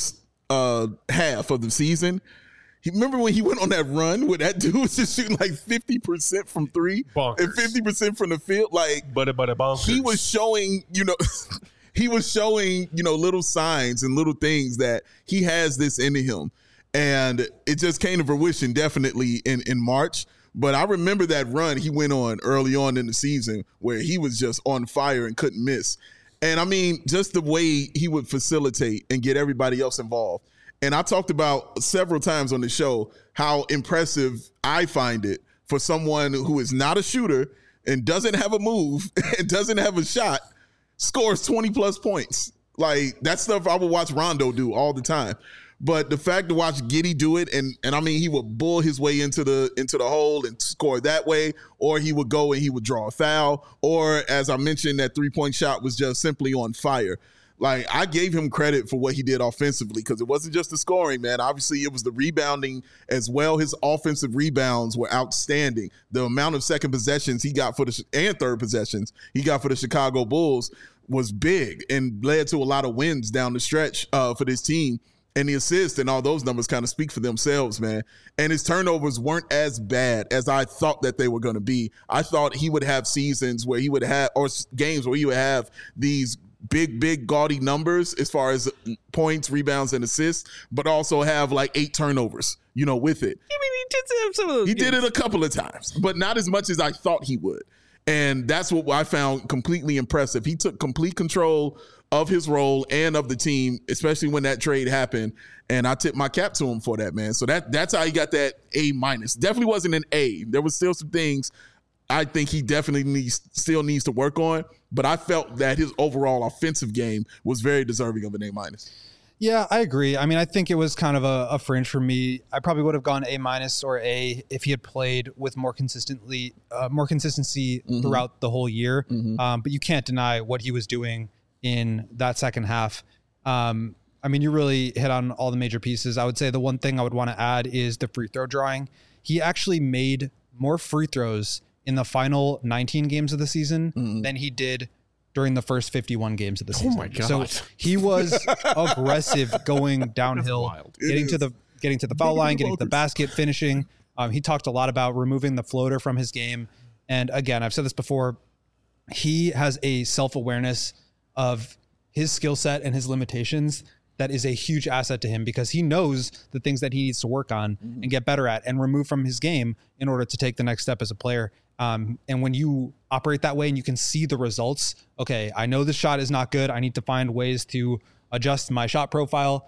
uh, half of the season. He, remember when he went on that run where that dude was just shooting like fifty percent from three Bonkers. and fifty percent from the field? Like, but but bonkers. He was showing, you know, he was showing, you know, little signs and little things that he has this in him. And it just came to fruition definitely in, in March. But I remember that run he went on early on in the season where he was just on fire and couldn't miss. And I mean, just the way he would facilitate and get everybody else involved. And I talked about several times on the show how impressive I find it for someone who is not a shooter and doesn't have a move and doesn't have a shot, scores twenty plus points. Like, that's stuff I would watch Rondo do all the time. But the fact to watch Giddey do it, and and I mean, he would bull his way into the into the hole and score that way, or he would go and he would draw a foul, or as I mentioned, that three-point shot was just simply on fire. Like, I gave him credit for what he did offensively because it wasn't just the scoring, man. Obviously, it was the rebounding as well. His offensive rebounds were outstanding. The amount of second possessions he got for the and third possessions he got for the Chicago Bulls was big and led to a lot of wins down the stretch uh, for this team. And the assists and all those numbers kind of speak for themselves, man. And his turnovers weren't as bad as I thought that they were going to be. I thought he would have seasons where he would have, or games where he would have these big, big, gaudy numbers as far as points, rebounds, and assists, but also have like eight turnovers, you know, with it. I mean, he did have some of those He games. did it a couple of times, but not as much as I thought he would. And that's what I found completely impressive. He took complete control of his role and of the team, especially when that trade happened. And I tip my cap to him for that, man. So that that's how he got that A minus. Definitely wasn't an A. There was still some things I think he definitely needs still needs to work on. But I felt that his overall offensive game was very deserving of an A minus. Yeah, I agree. I mean, I think it was kind of a, a fringe for me. I probably would have gone A minus or A if he had played with more consistently, uh, more consistency mm-hmm. throughout the whole year. Mm-hmm. Um, but you can't deny what he was doing in that second half. Um, I mean, you really hit on all the major pieces. I would say the one thing I would want to add is the free throw drawing. He actually made more free throws in the final nineteen games of the season mm-hmm. than he did during the first fifty-one games of the season. Oh my God. So he was aggressive going downhill, getting to the getting to the foul line, getting to the basket, finishing. Um, he talked a lot about removing the floater from his game. And again, I've said this before, he has a self-awareness of his skill set and his limitations that is a huge asset to him because he knows the things that he needs to work on mm-hmm. and get better at and remove from his game in order to take the next step as a player. Um, and when you operate that way and you can see the results, okay, I know this shot is not good. I need to find ways to adjust my shot profile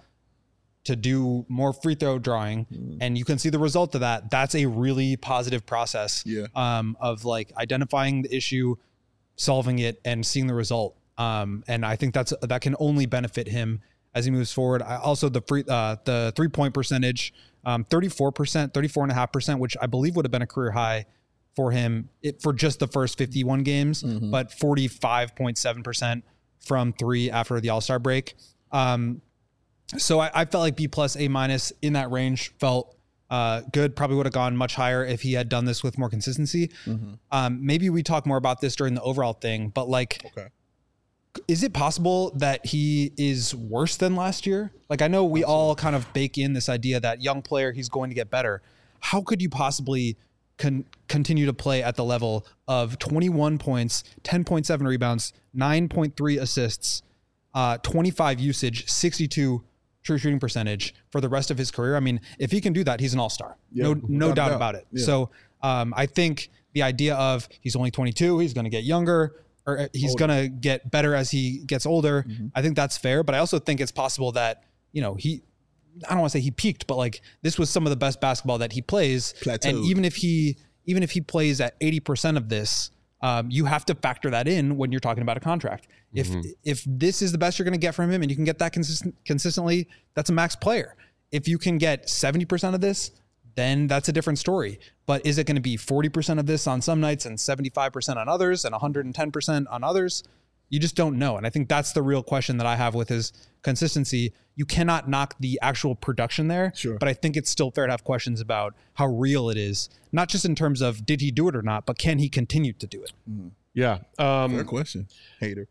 to do more free throw drawing. Mm. And you can see the result of that. That's a really positive process yeah. um, of like identifying the issue, solving it, and seeing the result. Um, and I think that's that can only benefit him as he moves forward. I, also, the free uh, the three point percentage, um, thirty-four percent, thirty-four and a half percent, which I believe would have been a career high for him it, for just the first fifty-one games, mm-hmm. but forty-five point seven percent from three after the All-Star break. Um, so I, I felt like B plus, A minus in that range felt uh, good. Probably would have gone much higher if he had done this with more consistency. Mm-hmm. Um, maybe we talk more about this during the overall thing, but like, okay. is it possible that he is worse than last year? Like, I know we all kind of bake in this idea that young player, he's going to get better. How could you possibly Con- continue to play at the level of twenty-one points, ten point seven rebounds, nine point three assists, uh, twenty-five usage, sixty-two true shooting percentage for the rest of his career? I mean, if he can do that, he's an all-star. Yeah, no no doubt, doubt about it. Yeah. So um, I think the idea of he's only twenty-two, he's going to get younger, or he's going to get better as he gets older, mm-hmm. I think that's fair. But I also think it's possible that, you know, he I don't want to say he peaked, but like this was some of the best basketball that he plays. Plateaued. And even if he, even if he plays at eighty percent of this, um, you have to factor that in when you're talking about a contract. Mm-hmm. If, if this is the best you're going to get from him and you can get that consistent consistently, that's a max player. If you can get seventy percent of this, then that's a different story. But is it going to be forty percent of this on some nights and seventy-five percent on others and one hundred ten percent on others? You just don't know. And I think that's the real question that I have with his consistency. You cannot knock the actual production there, sure. but I think it's still fair to have questions about how real it is, not just in terms of did he do it or not, but can he continue to do it? Mm. Yeah. Um, Fair question. Hater.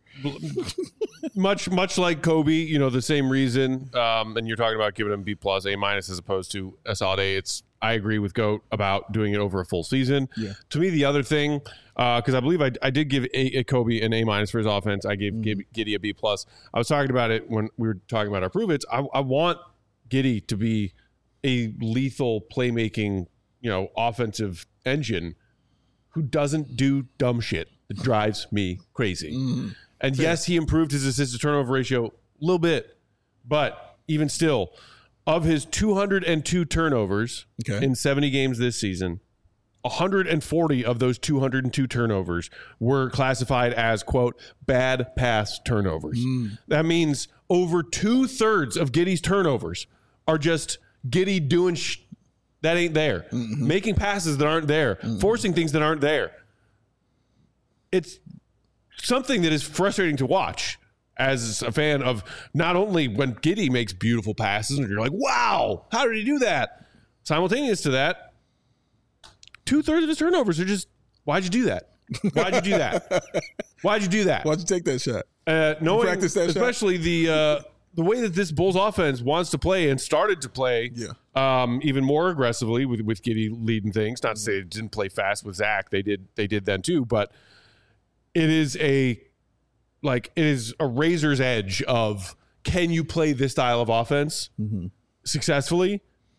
much much like Kobe, you know, the same reason. Um, and you're talking about giving him B plus, A minus as opposed to a solid A. It's I agree with Goat about doing it over a full season. Yeah. To me, the other thing, because uh, I believe I, I did give a, a Kobe an A minus for his offense. I gave mm. Giddey a B plus. I was talking about it when we were talking about our prove its. I, I want Giddey to be a lethal playmaking, you know, offensive engine who doesn't do dumb shit that drives me crazy. Mm. And Fair. yes, he improved his assist to turnover ratio a little bit, but even still, of his two hundred two turnovers okay. in seventy games this season, one hundred forty of those two hundred two turnovers were classified as, quote, bad pass turnovers. Mm. That means over two thirds of Giddey's turnovers are just Giddey doing sh- that ain't there, mm-hmm. making passes that aren't there, mm-hmm. forcing things that aren't there. It's something that is frustrating to watch as a fan of not only when Giddey makes beautiful passes and you're like, wow, how did he do that? Simultaneous to that, two thirds of his turnovers are just, why'd you do that? Why'd you do that? Why'd you do that? Why'd you take that shot? Uh, knowing, practice that especially shot? the uh, the way that this Bulls offense wants to play and started to play yeah. um, even more aggressively with with Giddey leading things. Not to say it didn't play fast with Zach. They did they did then too, but it is a like it is a razor's edge of, can you play this style of offense mm-hmm. successfully?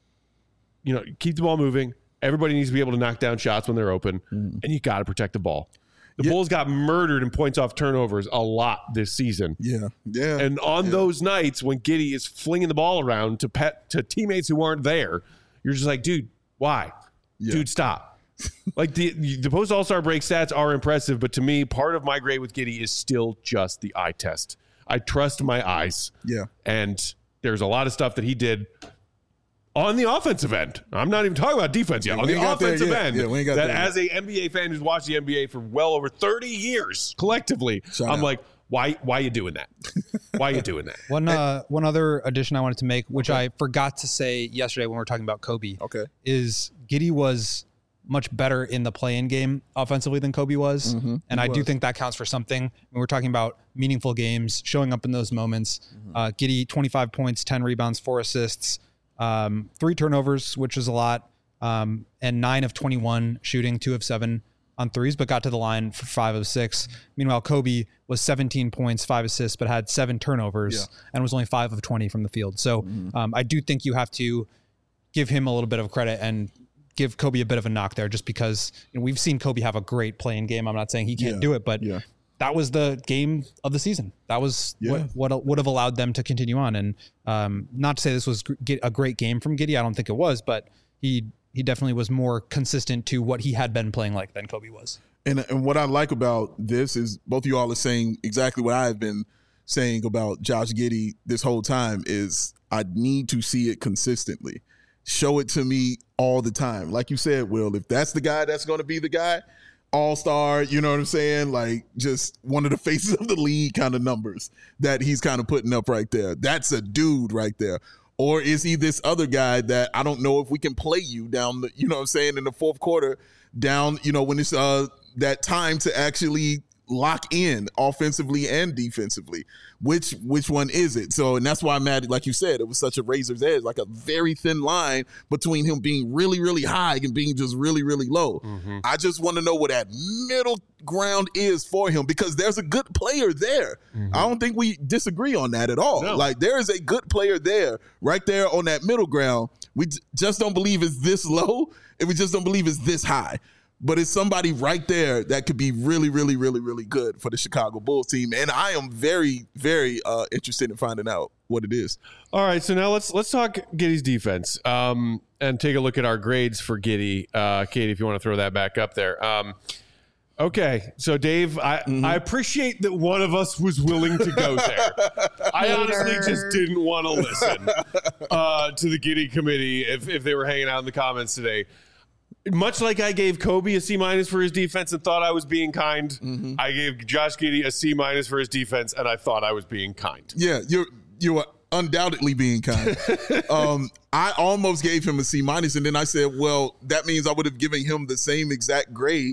You know, keep the ball moving. Everybody needs to be able to knock down shots when they're open, mm-hmm. and you got to protect the ball. The yeah. Bulls got murdered in points off turnovers a lot this season. Yeah, yeah. And on yeah. those nights when Giddey is flinging the ball around to pet to teammates who aren't there, you're just like, dude, why? Yeah. Dude, stop. Like the the post All-Star break stats are impressive, but to me, part of my grade with Giddey is still just the eye test. I trust my eyes. Yeah. And there's a lot of stuff that he did on the offensive end. I'm not even talking about defense yet. Yeah, on the offensive end, yeah, we ain't got that there as a N B A fan who's watched the N B A for well over thirty years collectively, Shout I'm out. like, why why are you doing that? Why are you doing that? One uh, one other addition I wanted to make, which okay. I forgot to say yesterday when we were talking about Kobe, okay. is Giddey was much better in the play-in game offensively than Kobe was. Mm-hmm. And I was. do think that counts for something. When we're talking about meaningful games, showing up in those moments, mm-hmm. uh, Giddey, twenty-five points, ten rebounds, four assists, um, three turnovers, which is a lot, um, and nine of twenty-one shooting, two of seven on threes, but got to the line for five of six. Meanwhile, Kobe was seventeen points, five assists, but had seven turnovers yeah. and was only five of twenty from the field. So mm-hmm. um, I do think you have to give him a little bit of credit and give Kobe a bit of a knock there, just because you know, we've seen Kobe have a great playing game. I'm not saying he can't yeah. do it, but yeah. that was the game of the season. That was yeah. what, what would have allowed them to continue on. And um, not to say this was a great game from Giddey. I don't think it was, but he he definitely was more consistent to what he had been playing like than Kobe was. And and what I like about this is both of you all are saying exactly what I've been saying about Josh Giddey this whole time is I need to see it consistently. Show it to me all the time. Like you said, Will, if that's the guy that's going to be the guy, all-star, you know what I'm saying? Like just one of the faces of the league kind of numbers that he's kind of putting up right there. That's a dude right there. Or is he this other guy that I don't know if we can play you down the, you know what I'm saying, in the fourth quarter down, you know, when it's uh that time to actually lock in offensively and defensively. Which which one is it? So, and that's why I'm mad, like you said, it was such a razor's edge, like a very thin line between him being really, really high and being just really, really low. Mm-hmm. I just want to know what that middle ground is for him, because there's a good player there. Mm-hmm. I don't think we disagree on that at all. No. Like there is a good player there, right there on that middle ground. We just don't believe it's this low, and we just don't believe it's this high. But it's somebody right there that could be really, really, really, really good for the Chicago Bulls team. And I am very, very uh, interested in finding out what it is. All right, so now let's let's talk Giddey's defense um, and take a look at our grades for Giddey. Uh, Katie, if you want to throw that back up there. Um, okay, so Dave, I, mm-hmm. I appreciate that one of us was willing to go there. I honestly just didn't want to listen uh, to the Giddey committee if, if they were hanging out in the comments today. Much like I gave Kobe a C minus for his defense and thought I was being kind, mm-hmm. I gave Josh Giddey a C minus for his defense and I thought I was being kind. Yeah, you're you were undoubtedly being kind. um, I almost gave him a C minus, and then I said, well, that means I would have given him the same exact grade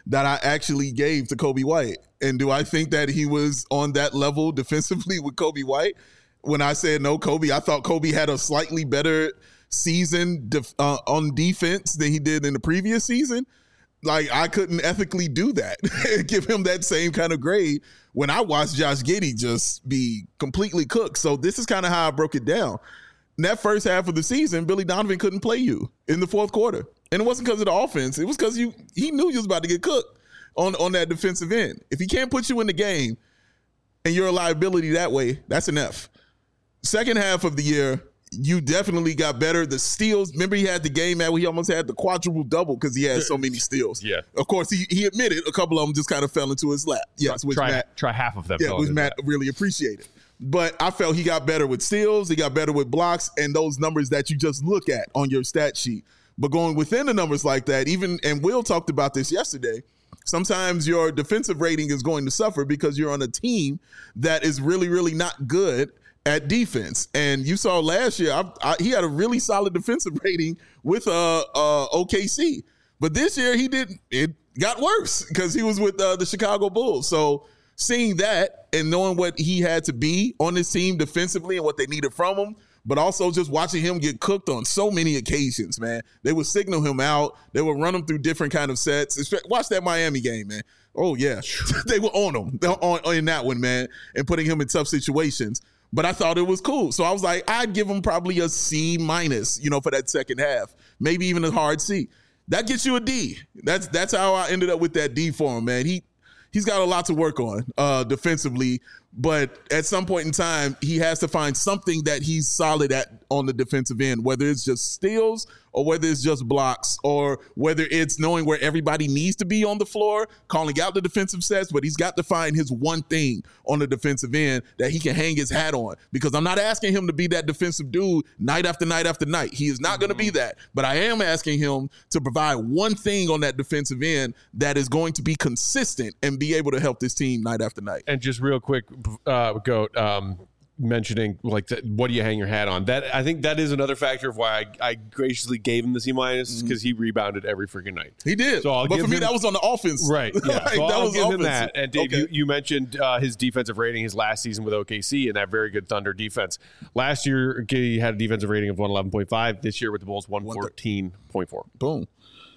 that I actually gave to Kobe White. And do I think that he was on that level defensively with Kobe White? When I said no, Kobe, I thought Kobe had a slightly better season def- uh, on defense than he did in the previous season. Like, I couldn't ethically do that and give him that same kind of grade when I watched Josh Giddey just be completely cooked. So this is kind of how I broke it down. In that first half of the season, Billy Donovan couldn't play you in the fourth quarter. And it wasn't because of the offense. It was because you he knew you was about to get cooked on, on that defensive end. If he can't put you in the game and you're a liability that way, that's an F. Second half of the year, you definitely got better. The steals, remember he had the game where he almost had the quadruple double because he had so many steals. Yeah. Of course, he he admitted a couple of them just kind of fell into his lap. Yes, try, which try, Matt, try half of them. yeah, which Matt that. really appreciated. But I felt he got better with steals, he got better with blocks, and those numbers that you just look at on your stat sheet. But going within the numbers like that, even, and Will talked about this yesterday, sometimes your defensive rating is going to suffer because you're on a team that is really, really not good at defense. And you saw last year, I, I, he had a really solid defensive rating with uh, uh, O K C. But this year, he didn't. It got worse because he was with uh, the Chicago Bulls. So seeing that and knowing what he had to be on this team defensively and what they needed from him, but also just watching him get cooked on so many occasions, man. They would signal him out. They would run him through different kind of sets. Watch that Miami game, man. Oh, yeah. They were on him on, in that one, man, and putting him in tough situations. But I thought it was cool. So I was like, I'd give him probably a C minus, you know, for that second half. Maybe even a hard C. That gets you a D. That's that's how I ended up with that D for him, man. He, he's got a lot to work on uh, defensively. But at some point in time, he has to find something that he's solid at on the defensive end, whether it's just steals or whether it's just blocks or whether it's knowing where everybody needs to be on the floor, calling out the defensive sets, but he's got to find his one thing on the defensive end that he can hang his hat on. Because I'm not asking him to be that defensive dude night after night after night. He is not mm-hmm. going to be that. But I am asking him to provide one thing on that defensive end that is going to be consistent and be able to help this team night after night. And just real quick, uh, Goat, um, mentioning like the, what do you hang your hat on? That I think that is another factor of why I, I graciously gave him the C minus because mm-hmm. he rebounded every freaking night. He did. So I'll but for me, him, that was on the offense, right? Yeah, like, so that I'll was give offense. him that. And Dave, okay. you, you mentioned uh, his defensive rating his last season with O K C and that very good Thunder defense. Last year, he had a defensive rating of one eleven point five. This year with the Bulls, one fourteen point four. Boom.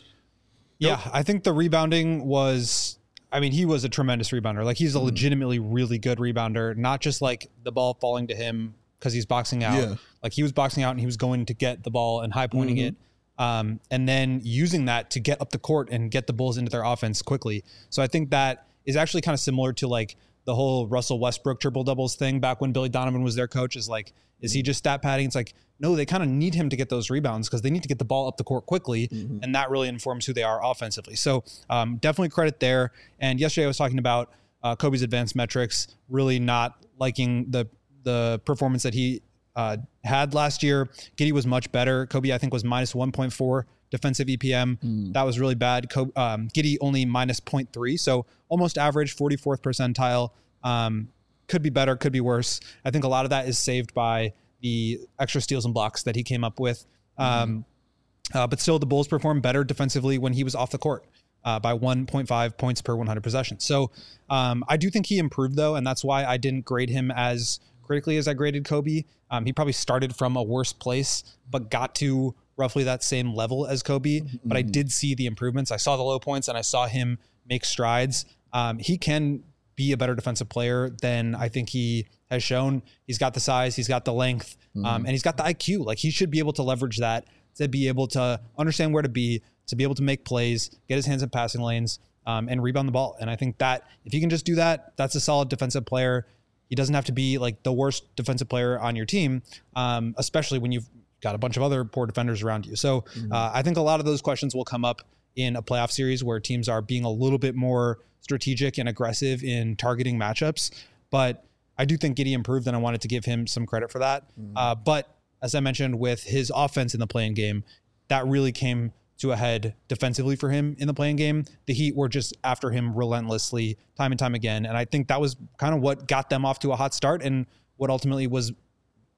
Yeah, nope. I think the rebounding was. I mean, he was a tremendous rebounder. Like, he's a legitimately really good rebounder, not just like the ball falling to him because he's boxing out. Yeah. Like, he was boxing out and he was going to get the ball and high pointing mm-hmm. it. Um, and then using that to get up the court and get the Bulls into their offense quickly. So I think that is actually kind of similar to like the whole Russell Westbrook triple doubles thing back when Billy Donovan was their coach. Is like, is he just stat padding? It's like, no, they kind of need him to get those rebounds because they need to get the ball up the court quickly. Mm-hmm. And that really informs who they are offensively. So um, definitely credit there. And yesterday I was talking about uh, Kobe's advanced metrics, really not liking the the performance that he uh, had last year. Giddey was much better. Kobe, I think, was minus one point four defensive E P M. Mm. That was really bad. Kobe, um, Giddey only minus zero point three. So almost average, forty-fourth percentile. Um, could be better, could be worse. I think a lot of that is saved by the extra steals and blocks that he came up with. Um, mm-hmm. uh, but still, the Bulls performed better defensively when he was off the court uh, by one point five points per one hundred possessions. So um, I do think he improved, though, and that's why I didn't grade him as critically as I graded Kobe. Um, he probably started from a worse place, but got to roughly that same level as Kobe. Mm-hmm. But I did see the improvements. I saw the low points, and I saw him make strides. Um, he can be a better defensive player than I think he has shown. He's got the size, he's got the length, mm-hmm. um, and he's got the I Q. Like, he should be able to leverage that to be able to understand where to be, to be able to make plays, get his hands in passing lanes, um, and rebound the ball. And I think that if he can just do that, that's a solid defensive player. He doesn't have to be like the worst defensive player on your team, um, especially when you've got a bunch of other poor defenders around you. So mm-hmm. uh, I think a lot of those questions will come up in a playoff series where teams are being a little bit more strategic and aggressive in targeting matchups. But I do think Giddey improved, and I wanted to give him some credit for that. Mm-hmm. Uh, but as I mentioned, with his offense in the playing game, that really came to a head defensively for him in the playing game. The Heat were just after him relentlessly time and time again. And I think that was kind of what got them off to a hot start and what ultimately was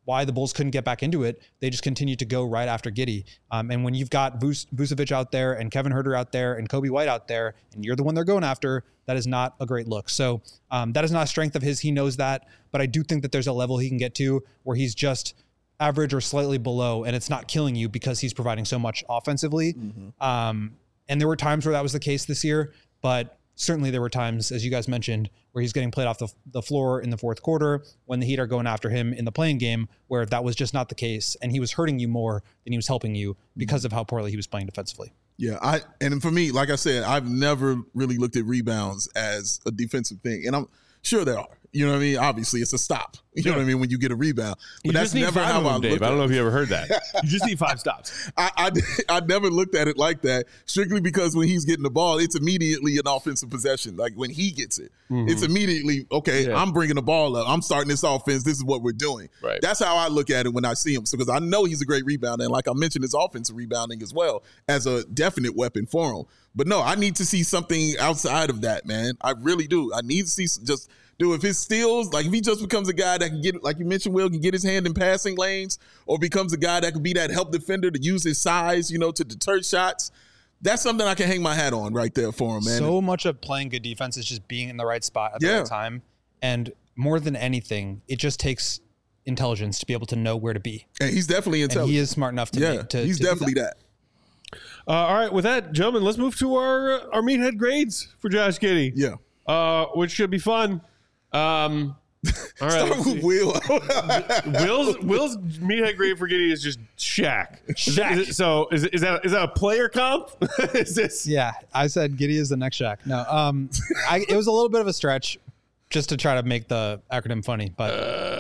why the Bulls couldn't get back into it. They just continued to go right after Giddey. Um, and when you've got Vus- Vucevic out there and Kevin Huerter out there and Kobe White out there, and you're the one they're going after, that is not a great look. So um, that is not a strength of his. He knows that. But I do think that there's a level he can get to where he's just average or slightly below, and it's not killing you because he's providing so much offensively. Mm-hmm. Um, and there were times where that was the case this year, but certainly there were times, as you guys mentioned, where he's getting played off the, the floor in the fourth quarter when the Heat are going after him in the playing game, where that was just not the case. And he was hurting you more than he was helping you because of how poorly he was playing defensively. Yeah, I and for me, like I said, I've never really looked at rebounds as a defensive thing. And I'm sure there are. You know what I mean? Obviously, it's a stop. You know what I mean? When you get a rebound. But you that's just need never five how of I them, Dave. looked I don't at know it. if you ever heard that. You just need five stops. I, I, I never looked at it like that, strictly because when he's getting the ball, it's immediately an offensive possession. Like when he gets it, mm-hmm. it's immediately, okay, yeah. I'm bringing the ball up. I'm starting this offense. This is what we're doing. Right. That's how I look at it when I see him. So because I know he's a great rebounder. And like I mentioned, his offensive rebounding as well as a definite weapon for him. But no, I need to see something outside of that, man. I really do. I need to see just – Dude, if his steals, like if he just becomes a guy that can get, like you mentioned, Will, can get his hand in passing lanes, or becomes a guy that can be that help defender to use his size, you know, to deter shots, that's something I can hang my hat on right there for him, man. So much of playing good defense is just being in the right spot at the yeah. right time. And more than anything, it just takes intelligence to be able to know where to be. And he's definitely intelligent. And he is smart enough to yeah, make, to he's to definitely that. that. Uh, all right, with that, gentlemen, let's move to our our meathead grades for Josh Giddey. Yeah. Uh, which should be fun. Um, all right. Start with Will. Will's Will's meathead grade for Giddey is just Shaq. Shaq. Is it, so is is that is that a player comp? Is this? Yeah, I said Giddey is the next Shaq. No, um, I, it was a little bit of a stretch just to try to make the acronym funny, but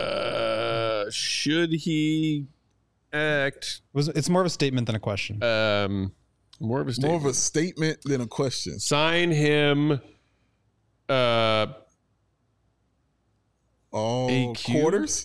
uh, should he act? It was it's more of a statement than a question. Um, more of a statement. More of a statement than a question. Sign him. Uh. Oh, A Q? quarters?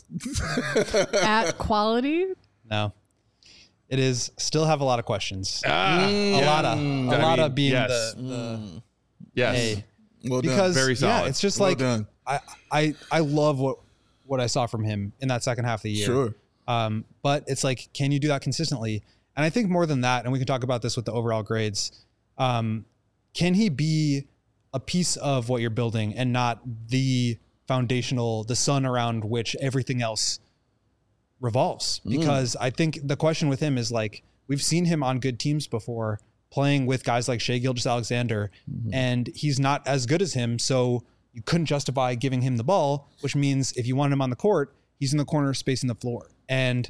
At quality? No, it is still have a lot of questions. Ah, a yeah. lot of a I lot mean, of being yes. the, the Yes. A. Well done. Because Very solid. yeah, it's just Well like done. I, I I love what what I saw from him in that second half of the year. Sure. Um, but it's like, can you do that consistently? And I think more than that, and we can talk about this with the overall grades. Um, can he be a piece of what you're building and not the foundational, the sun around which everything else revolves? Because mm. I think the question with him is like, we've seen him on good teams before playing with guys like Shai Gilgeous-Alexander, mm-hmm. and he's not as good as him. So you couldn't justify giving him the ball, which means if you want him on the court, he's in the corner spacing the floor. And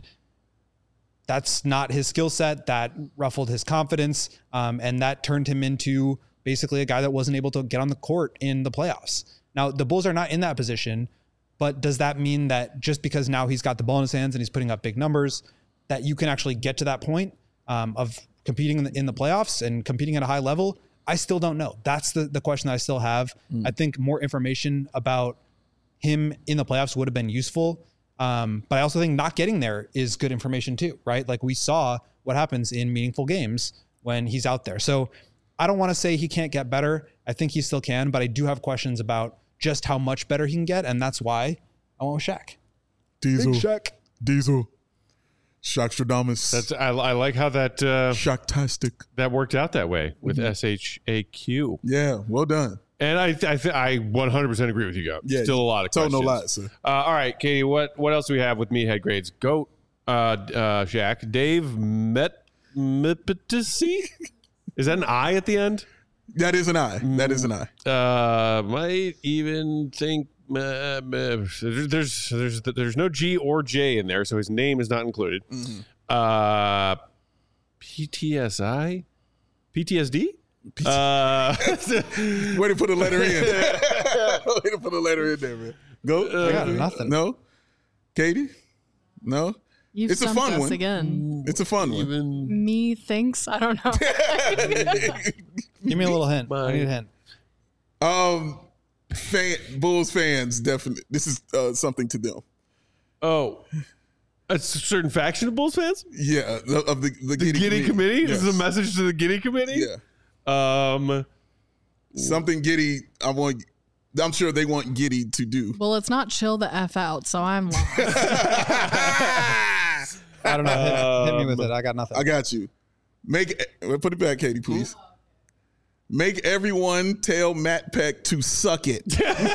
that's not his skill set. That ruffled his confidence. Um, and that turned him into basically a guy that wasn't able to get on the court in the playoffs. Now, the Bulls are not in that position, but does that mean that just because now he's got the ball in his hands and he's putting up big numbers, that you can actually get to that point um, of competing in the, in the playoffs and competing at a high level? I still don't know. That's the, the question that I still have. Mm. I think more information about him in the playoffs would have been useful. Um, but I also think not getting there is good information too, right? Like we saw what happens in meaningful games when he's out there. So I don't want to say he can't get better. I think he still can, but I do have questions about just how much better he can get, and that's why I went with Shaq. Diesel. Big Shaq. Diesel. Shaqstradamus. That's I, I like how that uh, Shaqtastic. that worked out that way with Mm-hmm. S H A Q. Yeah, well done. And I I th- I one hundred percent agree with you, Goat. Yeah, Still a lot of told questions. no lies, sir. Uh, all right, Katie, what what else do we have with meathead grades? Goat, uh, uh, Shaq, Dave Met Mepetisi? Is that an I at the end? That is an I. That is an I. Uh, might even think uh, uh, there's there's there's no G or J in there, so his name is not included. Mm-hmm. Uh, P T S I, P T S D. Uh, Way to put a letter in. Way to put a letter in there, man. Go. I got nothing. No. Katie. No. You've It's a stumped fun us one. again. It's a fun one. even Me thinks I don't know. Give me a little hint. My- I need a hint. Um, fan, Bulls fans definitely. This is uh, something to them. oh, a certain faction of Bulls fans. Yeah, the, of the the, The Giddey, Giddey Committee. Yes. This is a message to the Giddey Committee. Yeah, Um. something Giddey. I want I'm sure they want Giddey to do. Well, it's not chill the F out, so I'm lost. I don't know. Hit, hit me with it. I got nothing. I got you. Make put it back, Katie, please. Make everyone tell Matt Peck to suck it.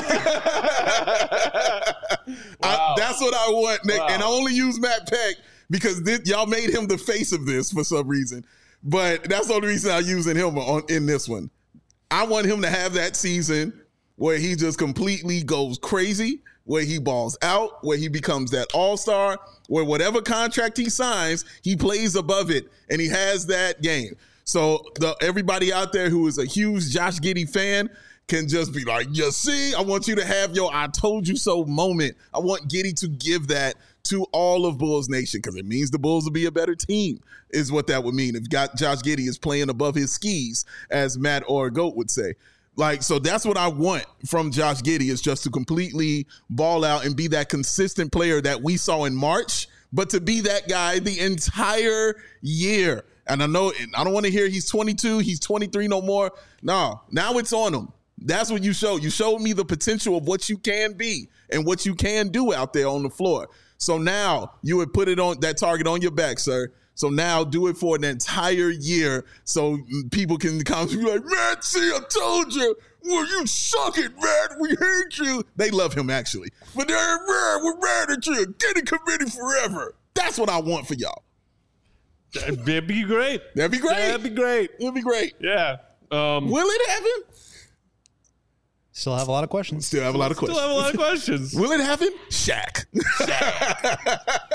I, that's what I want, Nick. Wow. And I only use Matt Peck because this, y'all made him the face of this for some reason. But that's the only reason I'm using him on in this one. I want him to have that season where he just completely goes crazy, where he balls out, where he becomes that all-star, where whatever contract he signs, he plays above it, and he has that game. So the, everybody out there who is a huge Josh Giddey fan can just be like, you see, I want you to have your I told you so moment. I want Giddey to give that to all of Bulls Nation because it means the Bulls will be a better team is what that would mean if got Josh Giddey is playing above his skis, as Matt or Goat would say. Like, so that's what I want from Josh Giddey is just to completely ball out and be that consistent player that we saw in March, but to be that guy the entire year. And I know, I don't want to hear he's twenty-two, he's twenty-three no more. No, now it's on him. That's what you showed. You showed me the potential of what you can be and what you can do out there on the floor. So now you would put it on that target on your back, sir. So now do it for an entire year so people can come and be like, man, see, I told you. Well, you suck it, man. We hate you. They love him, actually. But they're mad. We're mad at you. Get a committee forever. That's what I want for y'all. That'd be great. That'd be great. That'd be great. It'd be great. Yeah. Um, Will it happen? Still have a lot of questions. Still have a lot of questions. Still have a lot of questions. Will it happen? Shaq. Shaq.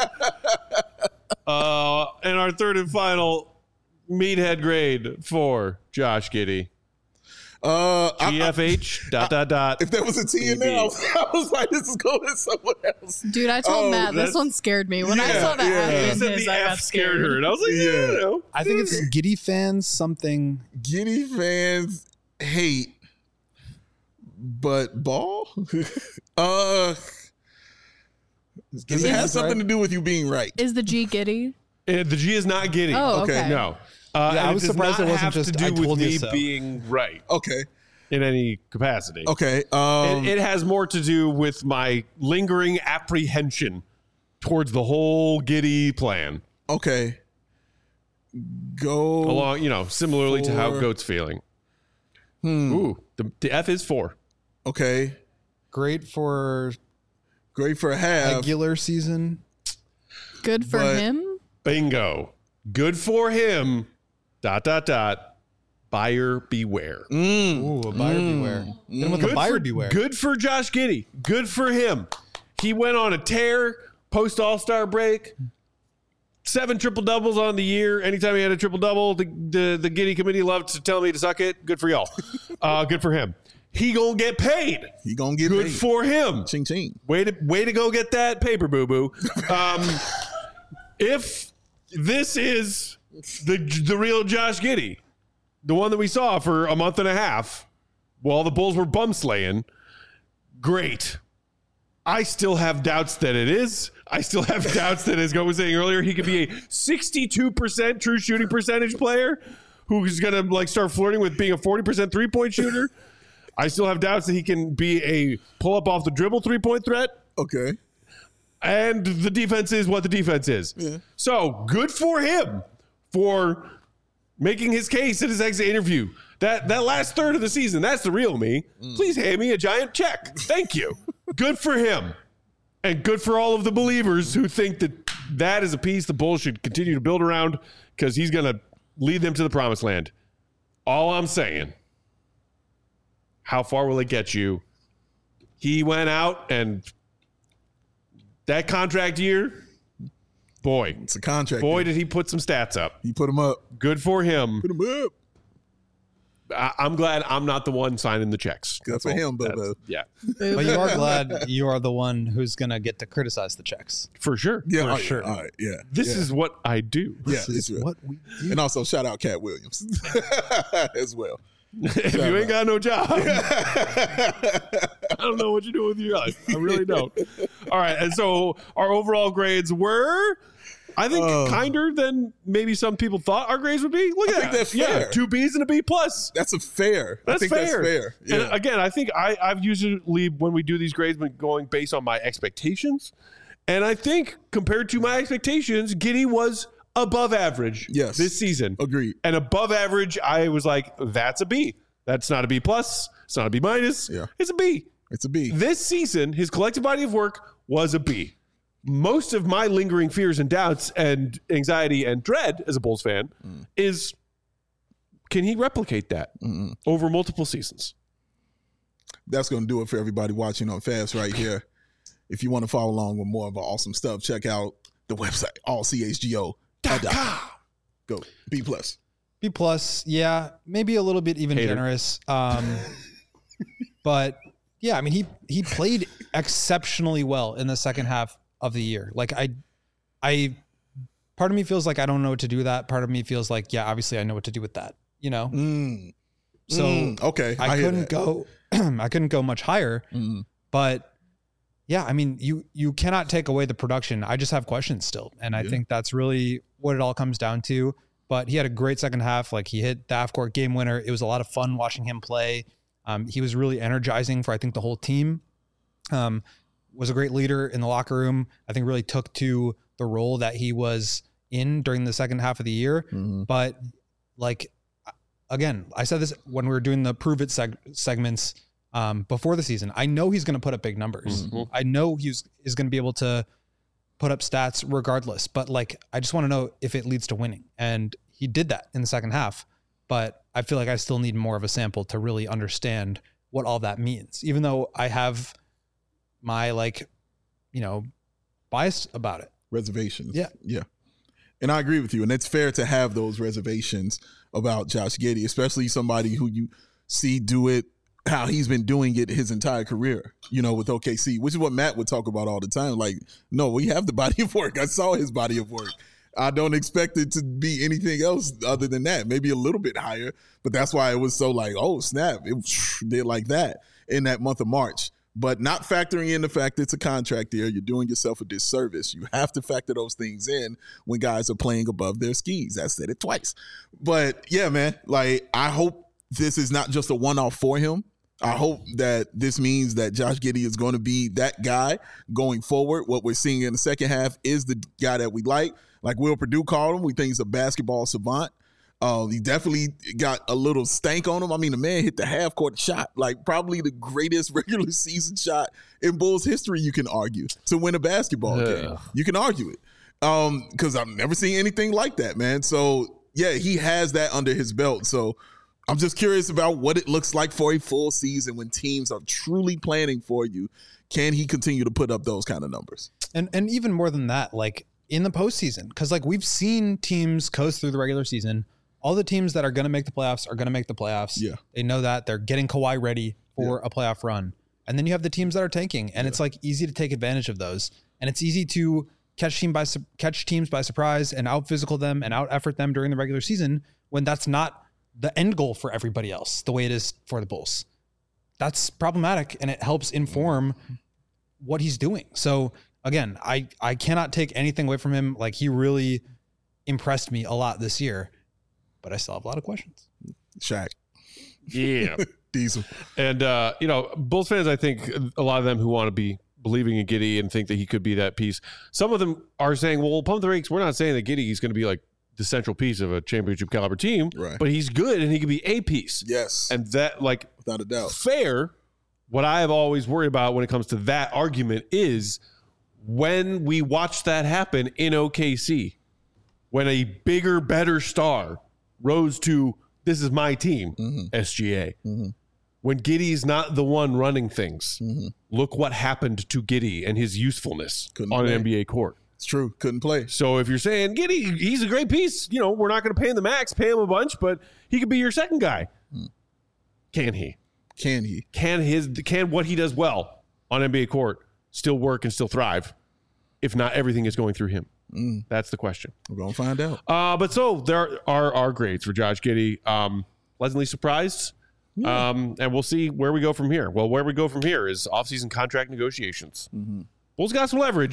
uh, and our third and final meathead grade for Josh Giddey. Uh, G F H I, I, dot dot dot. If there was a T in there, I was, I was like, this is going to someone else. Dude, I told oh, Matt this one scared me. When yeah, I saw that yeah. F He in said his, the I F got scared scared. her. And I was like, yeah. Yeah. You know. I think it's Giddey fans something. Giddey fans hate, but ball? uh, does it have something to do with you being right? Is the G Giddey? Uh, the G is not Giddey. Oh, okay. Okay. No. Uh, Yeah, and I was it does surprised not it wasn't have just, to do "I with told you me so." being right Okay. in any capacity. Okay. Um, It, it has more to do with my lingering apprehension towards the whole Giddey plan. okay. Go. Along, you know, similarly to how Four. Goat's feeling. Hmm. Ooh, the, the F is four. Okay. Great for Great for a half. regular season. Good for But- him? Bingo. Good for him. Dot, dot, dot. Buyer beware. Mm. Ooh, a buyer beware. Then with a Good buyer for, beware. Good for Josh Giddey. Good for him. He went on a tear post All-Star break. Seven triple doubles on the year. Anytime he had a triple double, the the, the Giddey committee loved to tell me to suck it. Good for y'all. Uh, good for him. He gonna get paid. He gonna get Good paid. for him. Ching ching. Way to way to go get that paper, boo boo. Um, if this is the the real Josh Giddey, the one that we saw for a month and a half, while the Bulls were bum slaying, great. I still have doubts that it is. I still have doubts that, as Goat was saying earlier, he could be a sixty-two percent true shooting percentage player who's going to like start flirting with being a forty percent three-point shooter. I still have doubts that he can be a pull-up off the dribble three-point threat. Okay. And the defense is what the defense is. Yeah. So good for him for making his case at his exit interview. That that last third of the season, that's the real me. Mm. Please hand me a giant check. Thank you. Good for him. And good for all of the believers who think that that is a piece the Bulls should continue to build around because he's going to lead them to the promised land. All I'm saying, how far will it get you? He went out and that contract year, boy, It's a contract. boy, dude. did he put some stats up. He put him up. Good for him. Put him up. I, I'm glad I'm not the one signing the checks. Good That's for all. him, That's- Bobo. Yeah, But you are glad you are the one who's going to get to criticize the checks. for sure. Yeah, For all right, sure. All right. Yeah. This yeah. is what I do. yeah. This It's is real. what we do. And also shout out Cat Williams as well. If you ain't got no job, I don't know what you're doing with your life. I really don't. All right. And so our overall grades were I think Uh, kinder than maybe some people thought our grades would be. Look I at think that. that's Yeah, fair. two B's and a B plus. That's a fair. That's I think fair. that's fair. Yeah. And again, I think I, I've usually, when we do these grades, been going based on my expectations. And I think compared to my expectations, Giddey was above average Yes. this season. Agreed. And above average, I was like, that's a B. That's not a B plus. It's not a B minus. Yeah. It's a B. It's a B. This season, his collective body of work was a B. Most of my lingering fears and doubts and anxiety and dread as a Bulls fan mm. is, can he replicate that Mm-mm. over multiple seasons? That's going to do it for everybody watching on Fast right here. If you want to follow along with more of our awesome stuff, check out the website, all c h g o dot com. Go. B plus. B plus, yeah, maybe a little bit even Hater. generous. Um, but yeah, I mean, he he played exceptionally well in the second half of the year. Like I, I, part of me feels like I don't know what to do with that. Part of me feels like, yeah, obviously I know what to do with that. You know. Mm. So mm. okay, I, I couldn't go. I couldn't go much higher. Mm. But yeah, I mean, you you cannot take away the production. I just have questions still, and I yeah. think that's really what it all comes down to. But he had a great second half. Like he hit the half-court game winner. It was a lot of fun watching him play. Um, he was really energizing for, I think, the whole team. Um, was a great leader in the locker room. I think really took to the role that he was in during the second half of the year. Mm-hmm. But like, again, I said this when we were doing the Prove It seg- segments um, before the season. I know he's going to put up big numbers. Mm-hmm. I know he's is going to be able to put up stats regardless. But like, I just want to know if it leads to winning. And he did that in the second half. But I feel like I still need more of a sample to really understand what all that means, even though I have my, like, you know, bias about it. Reservations. Yeah. Yeah. And I agree with you. And it's fair to have those reservations about Josh Giddey, especially somebody who you see do it how he's been doing it his entire career, you know, with O K C, which is what Matt would talk about all the time. Like, no, we have the body of work. I saw his body of work. I don't expect it to be anything else other than that, maybe a little bit higher. But that's why it was so like, oh, snap, it did like that in that month of March. But not factoring in the fact it's a contract year, you're doing yourself a disservice. You have to factor those things in when guys are playing above their skis. I said it twice. But yeah, man, like I hope this is not just a one-off for him. I hope that this means that Josh Giddey is going to be that guy going forward. What we're seeing in the second half is the guy that we like. Like Will Perdue called him, we think he's a basketball savant. Uh, he definitely got a little stank on him. I mean, the man hit the half-court shot, like probably the greatest regular season shot in Bulls history, you can argue, to win a basketball Ugh. game. You can argue it um, because I've never seen anything like that, man. So, yeah, he has that under his belt. So I'm just curious about what it looks like for a full season when teams are truly planning for you. Can he continue to put up those kind of numbers? And and even more than that, like in the postseason, because like we've seen teams coast through the regular season. All the teams that are going to make the playoffs are going to make the playoffs. Yeah. They know that. They're getting Kawhi ready for yeah. a playoff run. And then you have the teams that are tanking, and yeah. it's like easy to take advantage of those. And it's easy to catch team by su- catch teams by surprise and out physical them and out effort them during the regular season when that's not the end goal for everybody else, the way it is for the Bulls. That's problematic, and it helps inform what he's doing. So again, I, I cannot take anything away from him. Like he really impressed me a lot this year. But I still have a lot of questions. Shaq. Yeah. Diesel. And, uh, you know, Bulls fans, I think a lot of them who want to be believing in Giddey and think that he could be that piece. Some of them are saying, well, pump the brakes. We're not saying that Giddey is going to be like the central piece of a championship caliber team, right. but he's good and he can be a piece. Yes. And that, like, without a doubt, fair. What I have always worried about when it comes to that argument is when we watch that happen in O K C, when a bigger, better star rose to, this is my team, mm-hmm. S G A. Mm-hmm. When Giddey's not the one running things, mm-hmm. look what happened to Giddey and his usefulness Couldn't on play. an N B A court. It's true. Couldn't play. So if you're saying Giddey, he's a great piece, you know, we're not going to pay him the max, pay him a bunch, but he could be your second guy. Mm. Can he? Can he? Can his can what he does well on N B A court still work and still thrive if not everything is going through him? Mm. That's the question. We're going to find out. Uh, but so there are our grades for Josh Giddey. Um, pleasantly surprised. Yeah. Um, and we'll see where we go from here. Well, where we go from here is offseason contract negotiations. Mm-hmm. Bulls got some leverage.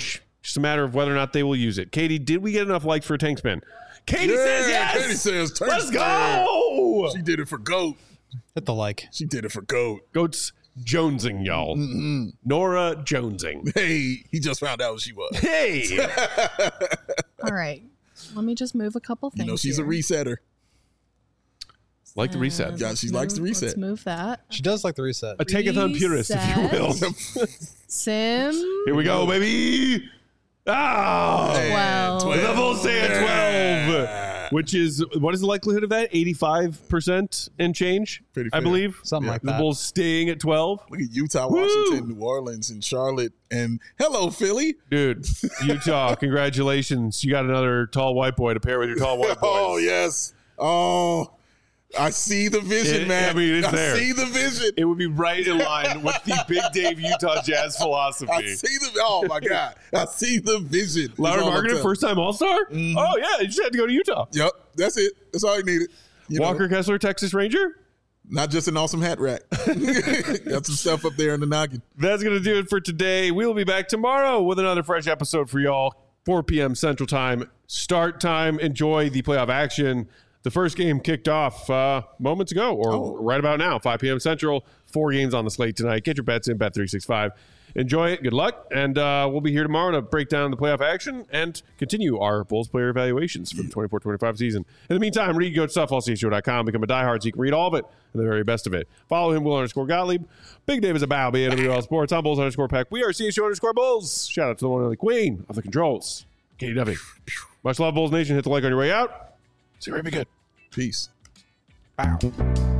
Just a matter of whether or not they will use it. Katie, did we get enough likes for a tank spin? Katie Yeah, says yes. Katie says, tank Let's spin. go. She did it for GOAT. Hit the like. She did it for GOAT. Goats Jonesing, y'all. Mm-hmm. Nora Jonesing. Hey, he just found out who she was. Hey. All right. Let me just move a couple things. You know, she's here. a resetter. Like the reset. Yeah, she likes the Move- reset. Let's move that. She does like the reset. A take-a-thon purist, if you will. Sim. Here we go, baby. Ah. Twelve. The Bulls stay at twelve, which is, what is the likelihood of that? eighty-five percent and change, Pretty I fair. believe. Something like The that. Bulls staying at twelve. Look at Utah, Woo! Washington, New Orleans, and Charlotte. And hello, Philly. Dude, Utah, congratulations. You got another tall white boy to pair with your tall white boys. Oh, yes. Oh, I see the vision, It- man. I mean, it's I there. see the vision. It would be right in line with the Big Dave Utah Jazz I philosophy. see the, oh, my God. I see the vision. That's Lauren all I'm Marketing, telling. first time All-Star? Oh, yeah, you just had to go to Utah. Yep, that's it. That's all you needed. You know, Walker Kessler, Texas Ranger? not just an awesome hat rack. Got some stuff up there in the noggin. That's going to do it for today. We'll be back tomorrow with another fresh episode for y'all. four p.m. Central Time. Start time. Enjoy the playoff action. The first game kicked off uh, moments ago, or Oh. right about now, five p.m. Central. Four games on the slate tonight. Get your bets in, Bet three sixty-five. Enjoy it. Good luck. And uh, we'll be here tomorrow to break down the playoff action and continue our Bulls player evaluations for the twenty-four twenty-five season. In the meantime, read Goat Stuff, all C S G O dot com. Become a diehard so you can read all of it and the very best of it. Follow him, Will underscore Gottlieb. Big Dave is a bow. B A W L Sports. I'm Bulls underscore Peck. We are C S G O underscore Bulls. Shout out to the one and only queen of the controls, Katie Duffy. Much love, Bulls Nation. Hit the like on your way out. See you right, be good. Peace. Bow.